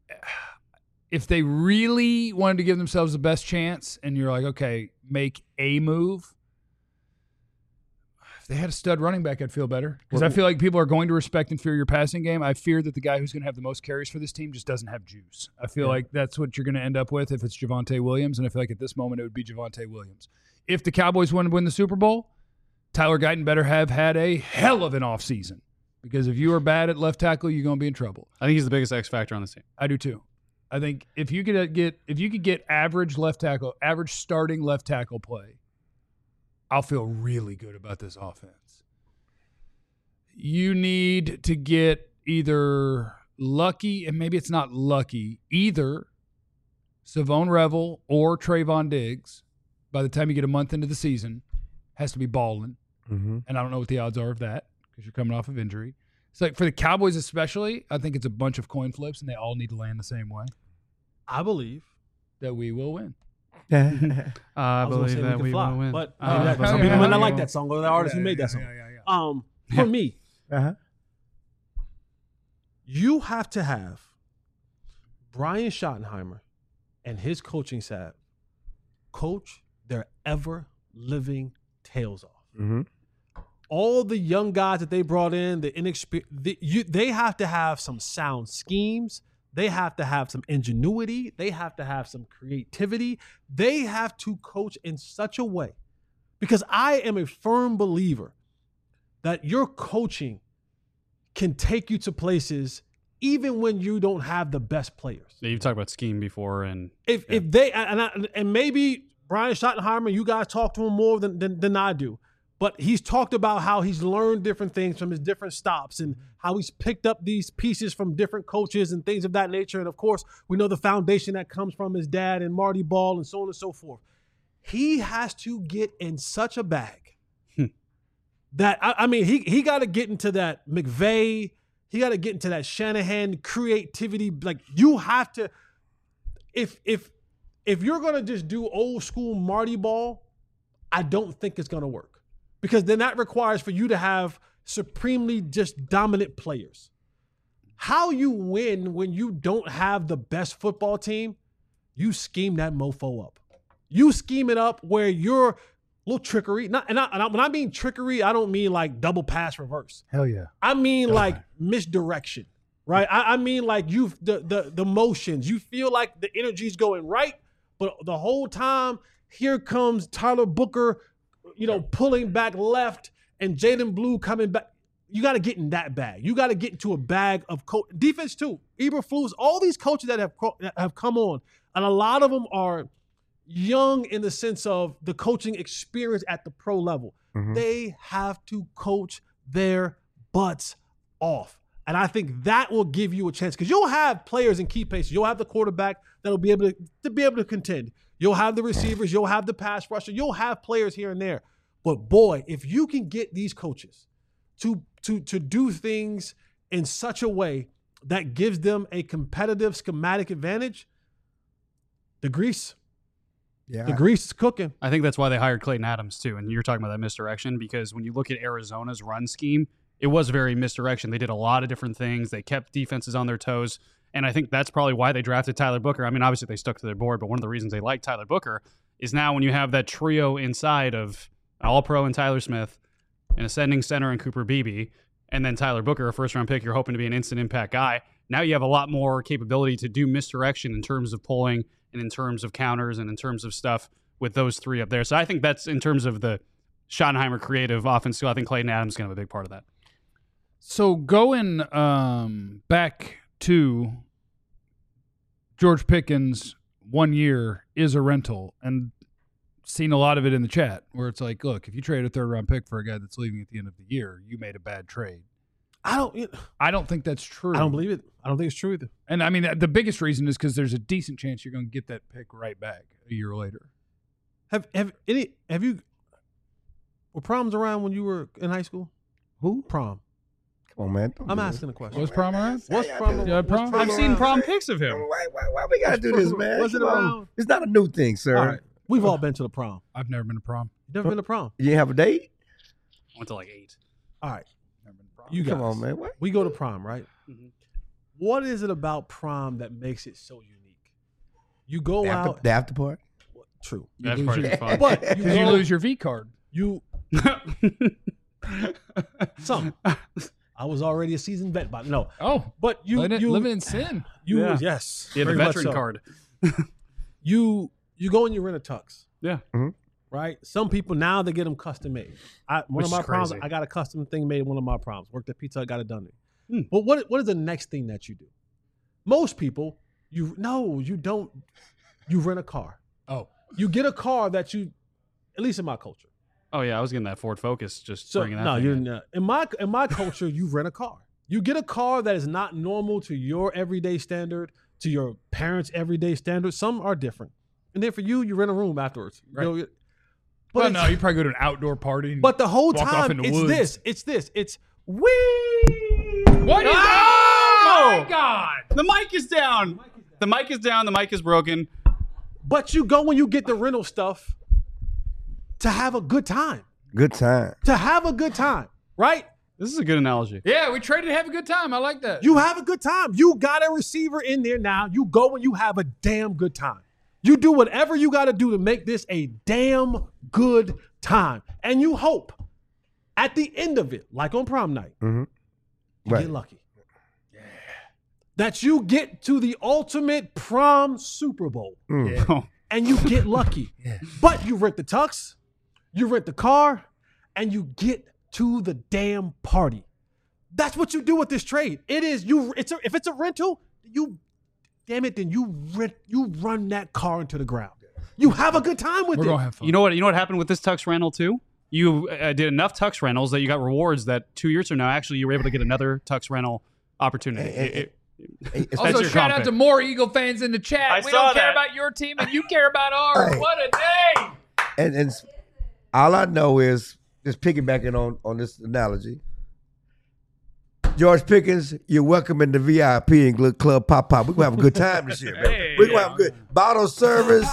If they really wanted to give themselves the best chance, and you're like, okay, make a move. If they had a stud running back, I'd feel better because I feel like people are going to respect and fear your passing game. I fear that the guy who's going to have the most carries for this team just doesn't have juice. I feel like that's what you're going to end up with if it's Javonte Williams, and I feel like at this moment it would be Javonte Williams. If the Cowboys want to win the Super Bowl, Tyler Guyton better have had a hell of an offseason because if you are bad at left tackle, you're going to be in trouble. I think he's the biggest X factor on this team. I do too. I think if you could get average starting left tackle play, I'll feel really good about this offense. You need to get either lucky, and maybe it's not lucky, either Savone Revel or Trayvon Diggs, by the time you get a month into the season, has to be balling. Mm-hmm. And I don't know what the odds are of that because you're coming off of injury. It's like for the Cowboys especially, I think it's a bunch of coin flips, and they all need to land the same way. I believe. That we will win. I was gonna believe say that could we fly, will win. But yeah, some yeah, people might not yeah. like that song or the artist who made that song. For me, Uh-huh. you have to have Brian Schottenheimer and his coaching staff coach their ever living tails off. Mm-hmm. All the young guys that they brought in, the inexperienced, they have to have some sound schemes. They have to have some ingenuity. They have to have some creativity. They have to coach in such a way, because I am a firm believer that your coaching can take you to places even when you don't have the best players. Yeah, you've talked about scheme before, and If they and maybe Brian Schottenheimer, you guys talk to him more than I do, but he's talked about how he's learned different things from his different stops and how he's picked up these pieces from different coaches and things of that nature. And of course, we know the foundation that comes from his dad and Marty Ball and so on and so forth. He has to get in such a bag that I mean he got to get into that McVay. He got to get into that Shanahan creativity. Like you have to, if you're gonna just do old school Marty Ball, I don't think it's gonna work, because then that requires for you to have supremely just dominant players. how you win when you don't have the best football team, you scheme that mofo up. You scheme it up where you're a little trickery. When I mean trickery, I don't mean like double pass reverse. Hell yeah. I mean like misdirection, right? I mean like the motions. You feel like the energy's going right, but the whole time here comes Tyler Booker, pulling back left and Jaden Blue coming back. You got to get in that bag. You got to get into a bag of defense too. Eberflus, all these coaches that have come on, and a lot of them are young in the sense of the coaching experience at the pro level. Mhm. They have to coach their butts off. And I think that will give you a chance because you'll have players in key places. You'll have the quarterback that'll be able to contend. You'll have the receivers. You'll have the pass rusher. You'll have players here and there. But boy, if you can get these coaches to do things in such a way that gives them a competitive schematic advantage, the grease is cooking. I think that's why they hired Clayton Adams too. And you're talking about that misdirection because when you look at Arizona's run scheme, it was very misdirection. They did a lot of different things. They kept defenses on their toes. And I think that's probably why they drafted Tyler Booker. I mean, obviously they stuck to their board, but one of the reasons they like Tyler Booker is now when you have that trio inside of All-Pro and Tyler Smith, an ascending center and Cooper Beebe, and then Tyler Booker, a first-round pick, you're hoping to be an instant impact guy. Now you have a lot more capability to do misdirection in terms of pulling and in terms of counters and in terms of stuff with those three up there. So I think that's in terms of the Schottenheimer creative offense. So I think Clayton Adams is going to have a big part of that. So going back to George Pickens, 1 year is a rental, and seen a lot of it in the chat where it's like, look, if you trade a third-round pick for a guy that's leaving at the end of the year, you made a bad trade. I don't think that's true. I don't believe it. I don't think it's true either. And I mean, the biggest reason is because there's a decent chance you're going to get that pick right back a year later. Were proms around when you were in high school? Who? Prom. Come on, man. I'm asking a question. Was prom around? What's prom? Yeah, prom? what's I've seen prom pics of him. Why we gotta do this, man? Was it Come on. around? It's not a new thing, sir. All right. We've all been to the prom. I've never been to prom. You never been to prom? You didn't have a date? I went to like 8. All right. Never been to prom. You guys. Come on, man. What? We go to prom, right? Mhm. What is it about prom that makes it so unique? You go The out. after party? True. That's lose part of your- the fun. But Because you lose your V card. Some. I was already a seasoned vet, but no. Oh, But living in sin. Yeah. Yes. Yeah, the very much veteran so. card. You go and you rent a tux. Yeah. Right? Some people now they get them custom made. One Which of my is proms, crazy. I got a custom thing made at one of my proms. Worked at Pizza Hut, got it done. Hmm. But what is the next thing that you do? Most people, you don't. You rent a car. Oh. You get a car that you, at least in my culture. Oh yeah, I was getting that Ford Focus. Just So bringing that. no, thing you're in. not. In my culture, you rent a car. You get a car that is not normal to your everyday standard, to your parents' everyday standard. Some are different, and then for you, you rent a room afterwards. Right. But Well, it's- no, you probably go to an outdoor party. But the whole Walk off time, in the it's woods. this. It's we. What is Oh! my God. The mic is down. The mic is down. The mic is broken. But you go when you get the rental stuff to have a good time. Good time. To have a good time, right? This is a good analogy. Yeah, we traded to have a good time. I like that. You have a good time. You got a receiver in there now. You go and you have a damn good time. You do whatever you got to do to make this a damn good time. And you hope at the end of it, like on prom night, you Right. get lucky. That you get to the ultimate prom Super Bowl Oh, and you get lucky. But you rent the tux, you rent the car, and you get to the damn party. That's what you do with this trade. It is if it's a rental, then you run that car into the ground. You have a good time with We're it. going to have fun. You know what happened with this tux rental too? You did enough tux rentals that you got rewards that 2 years from now, actually, you were able to get another tux rental opportunity. It's Also, your shout out comp to more Eagle fans in the chat. I We saw don't care that. about your team, and you care about ours. Hey. What a day! and all I know is just piggybacking on this analogy. George Pickens, you're welcome in the VIP and Club Pop Pop. We're gonna have a good time this year, man. Hey. We're gonna have a good bottle service.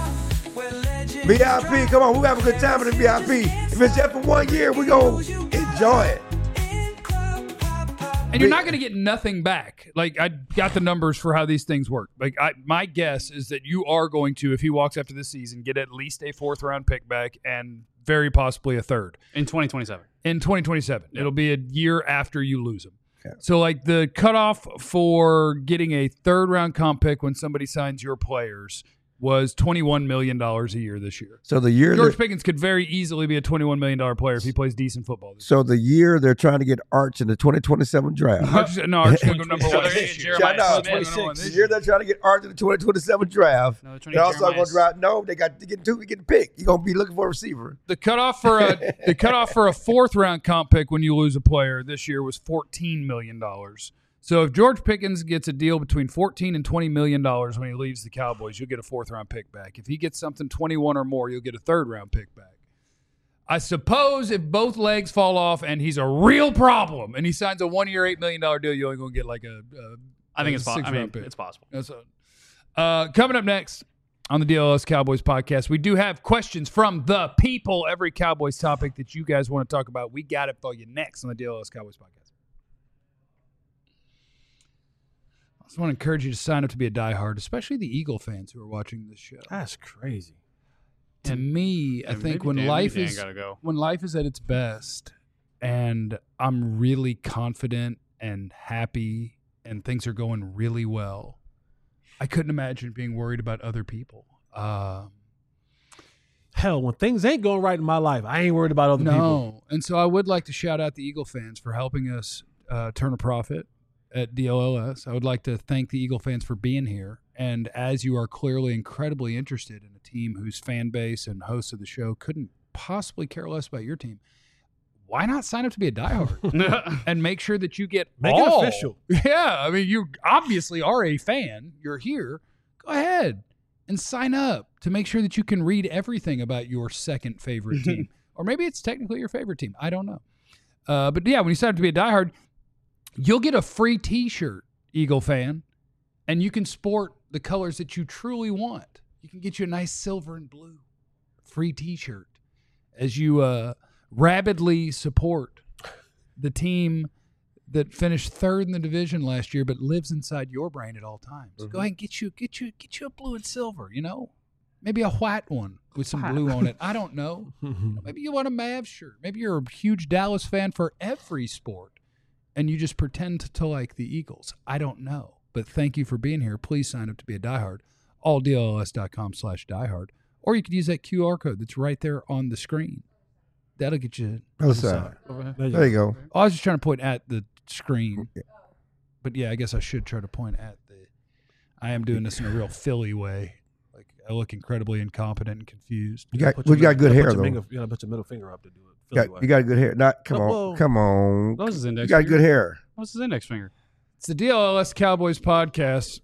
VIP, come on, we're gonna have a good time in the VIP. If it's just for 1 year, we're gonna enjoy it. And you're not going to get nothing back. Like, I got the numbers for how these things work. Like, my guess is that you are going to, if he walks after this season, get at least a 4th-round pick back and very possibly a 3rd. In 2027. In 2027. Yeah. It'll be a year after you lose him. Okay. So, like, the cutoff for getting a 3rd-round comp pick when somebody signs your players was $21 million a year this year. So the year George Pickens could very easily be a $21 million player if he plays decent football. So the year they're trying to get Arch in the 2027 draft. Arch's going to go number 1 this year. Jeremiah The year they're trying to get Arch in the 2027 draft. No, They're also going to draft. No, they got to get 2 to get the pick. You're going to be looking for a receiver. The cutoff for a 4th-round comp pick when you lose a player this year was $14 million. So if George Pickens gets a deal between $14 and $20 million when he leaves the Cowboys, you'll get a 4th-round pick back. If he gets something 21 or more, you'll get a 3rd-round pick back. I suppose if both legs fall off and he's a real problem and he signs a 1-year, $8 million deal, you're only going to get like I think it's possible. 6th-round pick. It's possible. Coming up next on the DLS Cowboys podcast, we do have questions from the people. Every Cowboys topic that you guys want to talk about, we got it for you next on the DLS Cowboys podcast. I just want to encourage you to sign up to be a diehard, especially the Eagle fans who are watching this show. That's crazy. To me, I think when life is at its best and I'm really confident and happy and things are going really well, I couldn't imagine being worried about other people. Hell, when things ain't going right in my life, I ain't worried about other people. No. And so I would like to shout out the Eagle fans for helping us turn a profit at DLLS. I would like to thank the Eagle fans for being here. And as you are clearly incredibly interested in a team whose fan base and hosts of the show couldn't possibly care less about your team, why not sign up to be a diehard and make sure that you get Make all? it official. Yeah, I mean, you obviously are a fan. You're here. Go ahead and sign up to make sure that you can read everything about your second favorite team. Or maybe it's technically your favorite team. I don't know. But yeah, when you sign up to be a diehard, you'll get a free T-shirt, Eagle fan, and you can sport the colors that you truly want. You can get you a nice silver and blue free T-shirt as you rabidly support the team that finished 3rd in the division last year, but lives inside your brain at all times. Mm-hmm. Go ahead and get you a blue and silver. You know, maybe a white one with some blue on it. I don't know. Maybe you want a Mavs shirt. Maybe you're a huge Dallas fan for every sport. And you just pretend to like the Eagles. I don't know. But thank you for being here. Please sign up to be a diehard. alldlls.com/diehard. Or you could use that QR code that's right there on the screen. That'll get you. There you go. I was just trying to point at the screen. But yeah, I guess I should try to point at the. I am doing this in a real Philly way. Like, I look incredibly incompetent and confused. You got good hair, though. You gotta put your middle finger up to do it. You got good hair. Come on. What was his index You got finger? good hair. What's his index finger? It's the DLLS Cowboys podcast.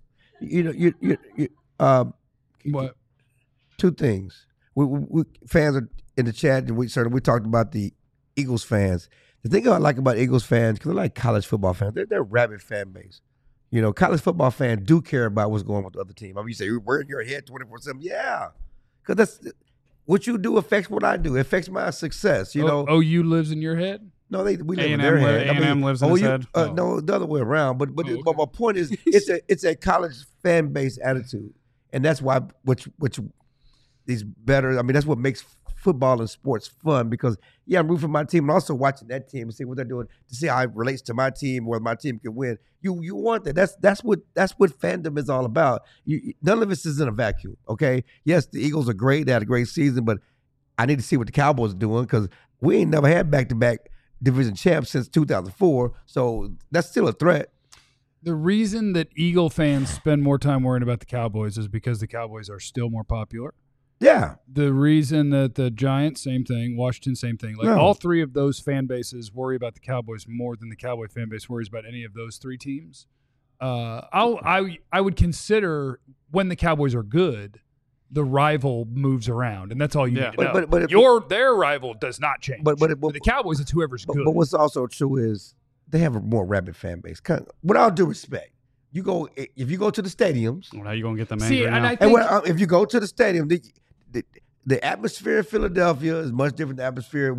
What? 2 things. We fans are in the chat, and we talked about the Eagles fans. The thing I like about Eagles fans, because they're like college football fans, they're a rabid fan base. You know, college football fans do care about what's going on with the other team. I mean, you say, we're in your head 24/7. Yeah, because that's what you do affects what I do. It affects my success. You know. OU lives in your head? No, we live in their head. A&M lives in his head. No, the other way around. But my point is, it's a college fan base attitude, and that's why which is better. I mean, that's what makes football and sports fun, because I'm rooting for my team and also watching that team and see what they're doing to see how it relates to my team, whether my team can win. You want that. That's what fandom is all about. None of this is in a vacuum. Okay. Yes, the Eagles are great. They had a great season, but I need to see what the Cowboys are doing, because we ain't never had back-to-back division champs since 2004. So that's still a threat. The reason that Eagle fans spend more time worrying about the Cowboys is because the Cowboys are still more popular. Yeah. The reason that the Giants, same thing, Washington, same thing. Like, all 3 of those fan bases worry about the Cowboys more than the Cowboy fan base worries about any of those 3 teams. I would consider when the Cowboys are good, the rival moves around, and that's all you need to know. But their rival does not change. But the Cowboys, it's whoever's good. But what's also true is they have a more rabid fan base. With all due respect, if you go to the stadiums. Well, how you gonna get them angry now? If you go to the stadium, the atmosphere in Philadelphia is much different than the atmosphere.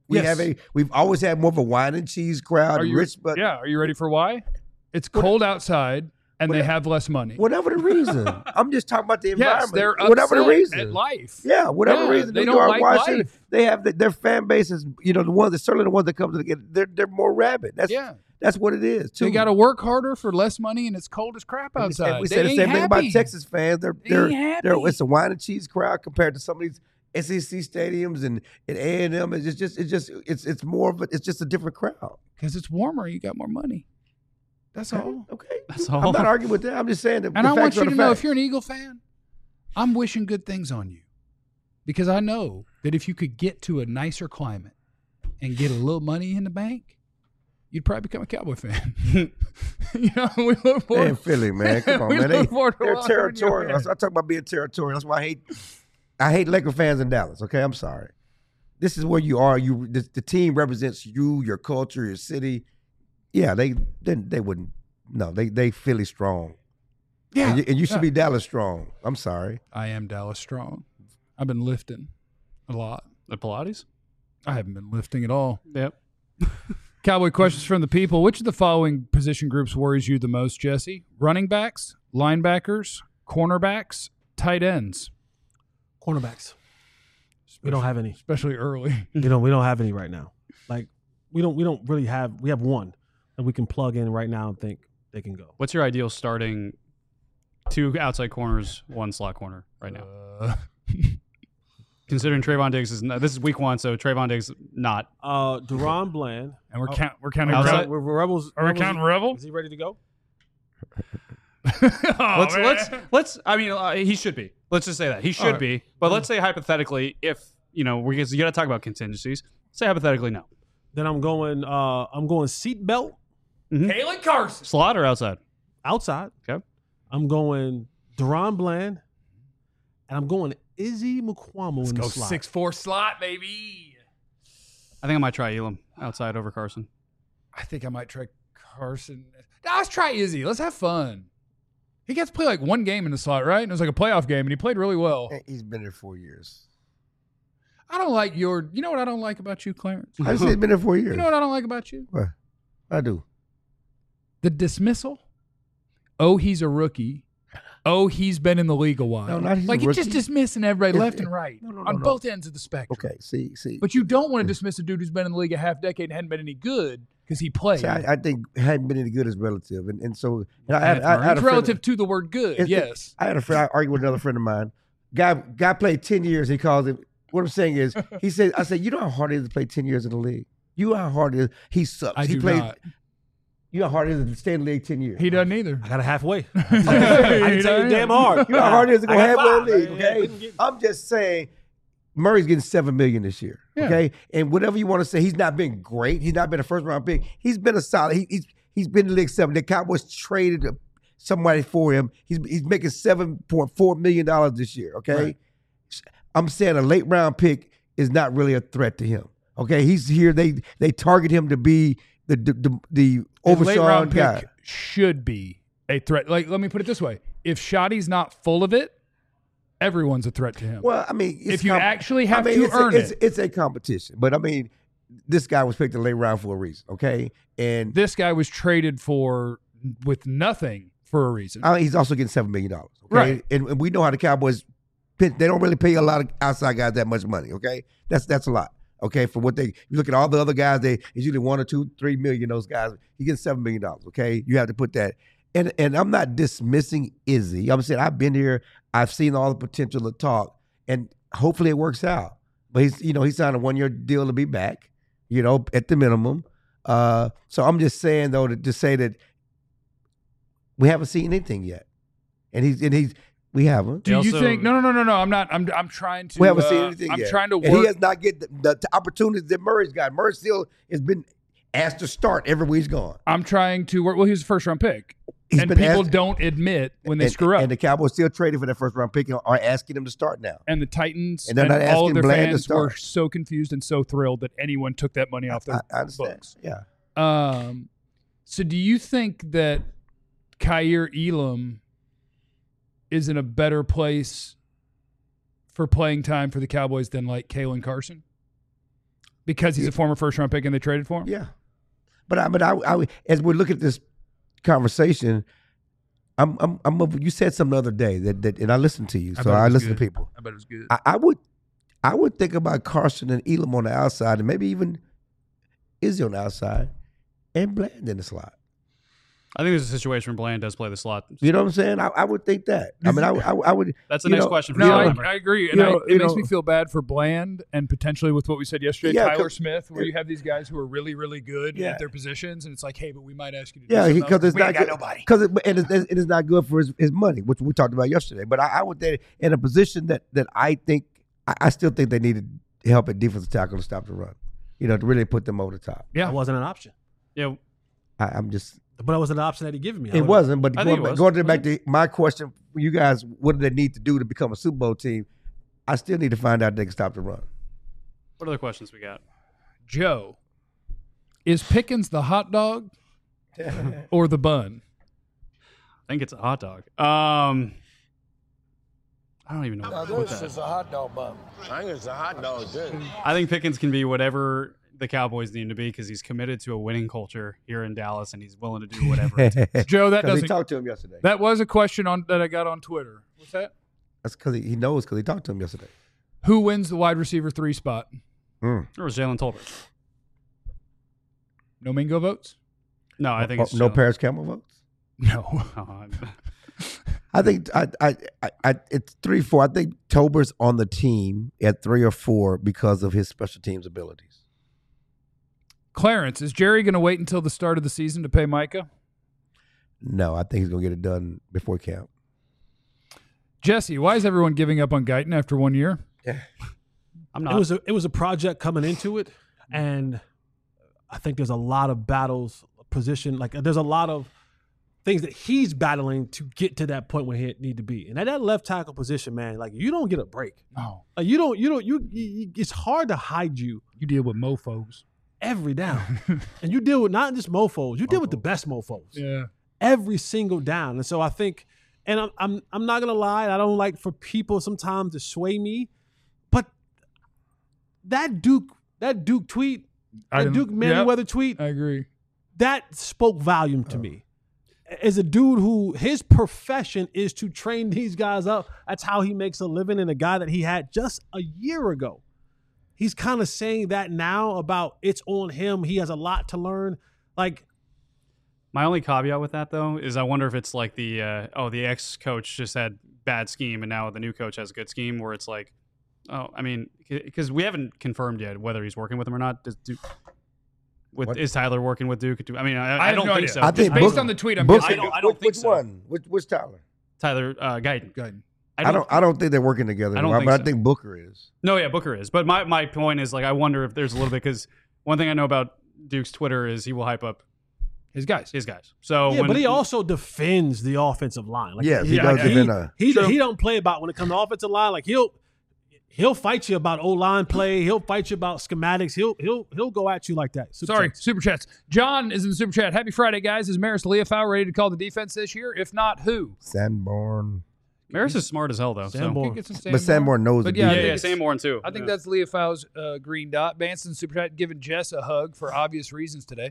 We've always had more of a wine and cheese crowd. But are you ready for why? It's cold outside and they have less money. Whatever the reason. I'm just talking about the environment. Yes, they're whatever the reason. at life. Yeah, whatever reason. They New don't York, like Washington, life. they have their fan bases. You know, certainly the ones that come to they're more rabid. That's what it is. Too. They got to work harder for less money, and it's cold as crap outside. And we say the same thing about Texas fans. It's a wine and cheese crowd compared to some of these SEC stadiums and A&M. It's more of it's just a different crowd because it's warmer. You got more money. That's all. Okay, that's all. I'm not arguing with that. I'm just saying that. And I want you to know, if you're an Eagle fan, I'm wishing good things on you because I know that if you could get to a nicer climate and get a little money in the bank, you'd probably become a Cowboy fan. We look forward. In Philly, man. Come on, man. They're territorial. I talk about being territorial. That's why I hate Laker fans in Dallas. Okay, I'm sorry. This is where you are. The team represents you, your culture, your city. Yeah, they wouldn't. No, they Philly strong. Yeah, and you should be Dallas strong. I'm sorry. I am Dallas strong. I've been lifting a lot. The Pilates? I haven't been lifting at all. Yep. Cowboy questions from the people. Which of the following position groups worries you the most, Jesse? Running backs, linebackers, cornerbacks, tight ends. Cornerbacks. We don't have any, especially early. We don't have any right now. Like we don't really have. We have one that we can plug in right now and think they can go. What's your ideal starting 2 outside corners, 1 slot corner right now? Considering Trayvon Diggs this is week 1, so Trayvon Diggs not. Deron Bland, and we're counting outside. We're Rebels. Are we counting Rebel? Is he ready to go? Let's. I mean, he should be. Let's just say that he should be. But let's say hypothetically, if you got to talk about contingencies. Say hypothetically, no. Then I'm going seatbelt. Mm-hmm. Kalen Carson. Slot or outside? Outside. Okay. I'm going Deron Bland, and I'm going Izzy Mukuamu in the slot. 6'4" slot, baby. I think I might try Elam outside over Carson. I think I might try Carson. Let's try Izzy. Let's have fun. He got to play like 1 game in the slot, right? And it was like a playoff game, and he played really well. He's been there 4 years. I don't like you know what I don't like about you, Clarence? I just say he's been there 4 years. You know what I don't like about you? What? I do. The dismissal. Oh, he's a rookie. Oh, he's been in the league a while. No, not he's like a rookie. You're just dismissing everybody left and right on both ends of the spectrum. Okay, see. But you don't want to dismiss a dude who's been in the league a half decade and hadn't been any good because he played. See, I think hadn't been any good is relative, and so I had it's relative to the word good. Yes, I had a friend. I argued with another friend of mine. Guy played 10 years. He calls it. What I'm saying is, I said, you know how hard it is to play 10 years in the league. You know how hard it is. He sucks. He played. Not. You know how hard it is to stay in the league 10 years. He doesn't either. I got a halfway. I didn't tell you damn hard. You know how hard it is to go halfway in the league. Okay, I'm just saying. Murray's getting $7 million this year. Okay, and whatever you want to say, he's not been great. He's not been a first round pick. He's been a solid. He's been in the league 7. The Cowboys traded somebody for him. He's making $7.4 million this year. Okay, right. I'm saying a late round pick is not really a threat to him. Okay, he's here. They target him to be the Overshawn guy. Pick should be a threat. Like, let me put it this way: if Shoddy's not full of it, everyone's a threat to him. Well, I mean, if you actually have to earn it, it's a competition. But I mean, this guy was picked in the late round for a reason. Okay, and this guy was traded for with nothing for a reason. He's also getting $7 million. Okay, right? And we know how the Cowboys. They don't really pay a lot of outside guys that much money. Okay, that's a lot. Okay, for what you look at all the other guys, it's usually $1 or $2, $3 million. Those guys, he gets $7 million. Okay, you have to put that. And I'm not dismissing Izzy. I'm saying I've been here. I've seen all the potential to talk, and hopefully it works out. But he signed a 1-year deal to be back. At the minimum. So I'm just saying though to say that we haven't seen anything yet, and we haven't. Do you think? No. I'm not. I'm trying to. We haven't seen anything yet. I'm trying to work. And he has not get the opportunities that Murray's got. Murray still has been asked to start everywhere he's gone. I'm trying to work. Well, he was a first-round pick. And people don't admit when they screw up. And the Cowboys still traded for that first-round pick and are asking him to start now. And the Titans and all of their fans were so confused and so thrilled that anyone took that money off their books. Yeah. So do you think that Kaiir Elam is in a better place for playing time for the Cowboys than like Kalen Carson? Because he's a former first-round pick and they traded for him? Yeah. But I as we look at this conversation, you said something the other day that and I listened to you, so I listen to people. I bet it was good. I would think about Carson and Elam on the outside, and maybe even Izzy on the outside, and Bland in the slot. I think there's a situation where Bland does play the slot. You know what I'm saying? I would think that. I mean, I would. That's the next question. For No, you. I agree. And it makes me feel bad for Bland and potentially with what we said yesterday, Tyler Smith, where you have these guys who are really, really good at their positions, and it's like, hey, but we might ask you to do something. Because it's not good. nobody. It is not good for his money, which we talked about yesterday. But I would think in a position that I think I still think they needed help at defensive tackle to stop the run. To really put them over the top. Yeah, that wasn't an option. Yeah, I'm just. But it was an option that he gave me. It wasn't, but going back to my question for you guys, what do they need to do to become a Super Bowl team? I still need to find out if they can stop the run. What other questions we got? Joe, is Pickens the hot dog or the bun? I think it's a hot dog. I don't even know. What that is. a hot dog bun. I think it's a hot dog, too. I think Pickens can be whatever the Cowboys need him to be because he's committed to a winning culture here in Dallas and he's willing to do whatever it takes. Joe, that Because doesn't. he talked to him yesterday. That was a question that I got on Twitter. What's that? That's because he knows because he talked to him yesterday. Who wins the wide receiver 3 spot? Or was Jalen Tolbert? No Mingo votes? No, I think it's no Jalen. Paris Campbell votes. No. I think it's 3-4. I think Tolbert's on the team at 3 or 4 because of his special teams abilities. Clarence, is Jerry going to wait until the start of the season to pay Micah? No, I think he's going to get it done before camp. Jesse, why is everyone giving up on Guyton after 1 year? I'm not. It was a project coming into it, and I think there's a lot of battles, position. Like there's a lot of things that he's battling to get to that point where he need to be. And at that left tackle position, man, like you don't get a break. No. Like it's hard to hide you. You deal with mofos. Every down. And you deal with not just mofos, you deal with the best mofos. Yeah. Every single down. And so I think, and I'm not gonna lie, I don't like for people sometimes to sway me, but that Duke tweet, that Duke Manyweather tweet, I agree. that spoke volume to me. As a dude who his profession is to train these guys up, that's how he makes a living, and a guy that he had just a year ago. He's kind of saying that now about it's on him. He has a lot to learn. Like, my only caveat with that though is I wonder if it's like the ex-coach just had bad scheme and now the new coach has a good scheme where it's like, oh, I mean, because we haven't confirmed yet whether he's working with him or not. Is Tyler working with Duke? I mean, I don't think so. I think based on the tweet, I'm Booker, guessing. I don't think which so. one? Which Tyler? Tyler Guyton. I don't think they're working together. I don't think but so. I think Booker is. No, yeah, Booker is. But my point is, like, I wonder if there's a little bit because one thing I know about Duke's Twitter is he will hype up his guys. So yeah, but he also defends the offensive line. Like, Yes, he does defend. He don't play about when it comes to offensive line. Like he'll fight you about O-line play. He'll fight you about schematics. He'll go at you like that. Super chats. John is in the super chat. Happy Friday, guys. Is Maris Leofau ready to call the defense this year? If not, who? Sanborn. Maris is smart as hell though. Sanborn. But Sanborn knows the yeah, defense. Sanborn too. I think that's Leofau's green dot. Banson super chat giving Jess a hug for obvious reasons today.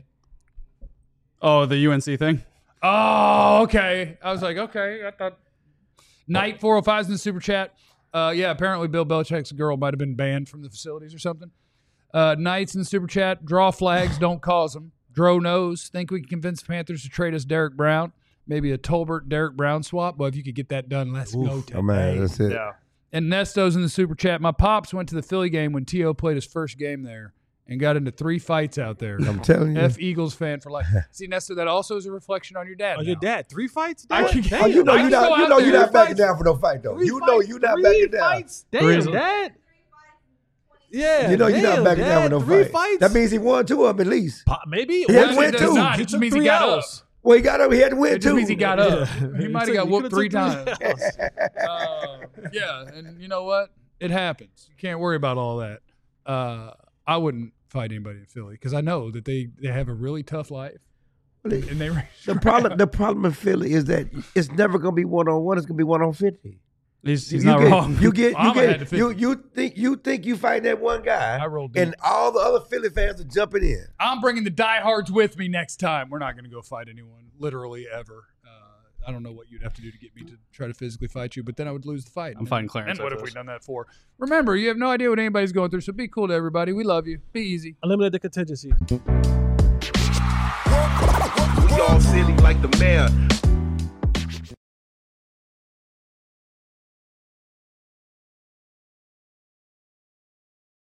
Oh, the UNC thing. Oh, okay. I was like, okay. I thought Knight 405 is in the super chat. Yeah, apparently Bill Belichick's girl might have been banned from the facilities or something. Knight's in the super chat. Draw flags, don't cause them. Dro knows. Think we can convince the Panthers to trade us Derek Brown. Maybe a Tolbert Derek Brown swap. But if you could get that done, let's go today. Oh man, that's it. Yeah. And Nesto's in the super chat. My pops went to the Philly game when T.O. played his first game there and got into 3 fights out there. I'm telling you. F Eagles fan for life. See, Nesto, that also is a reflection on your dad. Oh, your now. dad 3 fights? I Damn, can- Oh, you know I you're can go out there. not backing down for no fight though. You know you're not backing down. Fights? Damn, Dad. Yeah, You know you're not backing down for no 3 fight. fights. That means he won 2 of them at least. Maybe. He had to win It does 2. not. It just means he got up. Well, he got up. He had to win It just 2. means he got up. Yeah. He might have got whooped 3 times. Yeah, and you know what? It happens. You can't worry about all that. I wouldn't fight anybody in Philly because I know that they have a really tough life. And they The problem in Philly is that it's never going to be 1-on-1. It's going to be 1-on-50. He's not wrong. You think you fight that one guy, I rolled deep. and all the other Philly fans are jumping in. I'm bringing the diehards with me next time. We're not going to go fight anyone, literally ever. I don't know what you'd have to do to get me to try to physically fight you, but then I would lose the fight. I'm fighting Clarence. And what have we done that for? Remember, you have no idea what anybody's going through, so be cool to everybody. We love you. Be easy. Eliminate the contingency. We all silly like the mayor.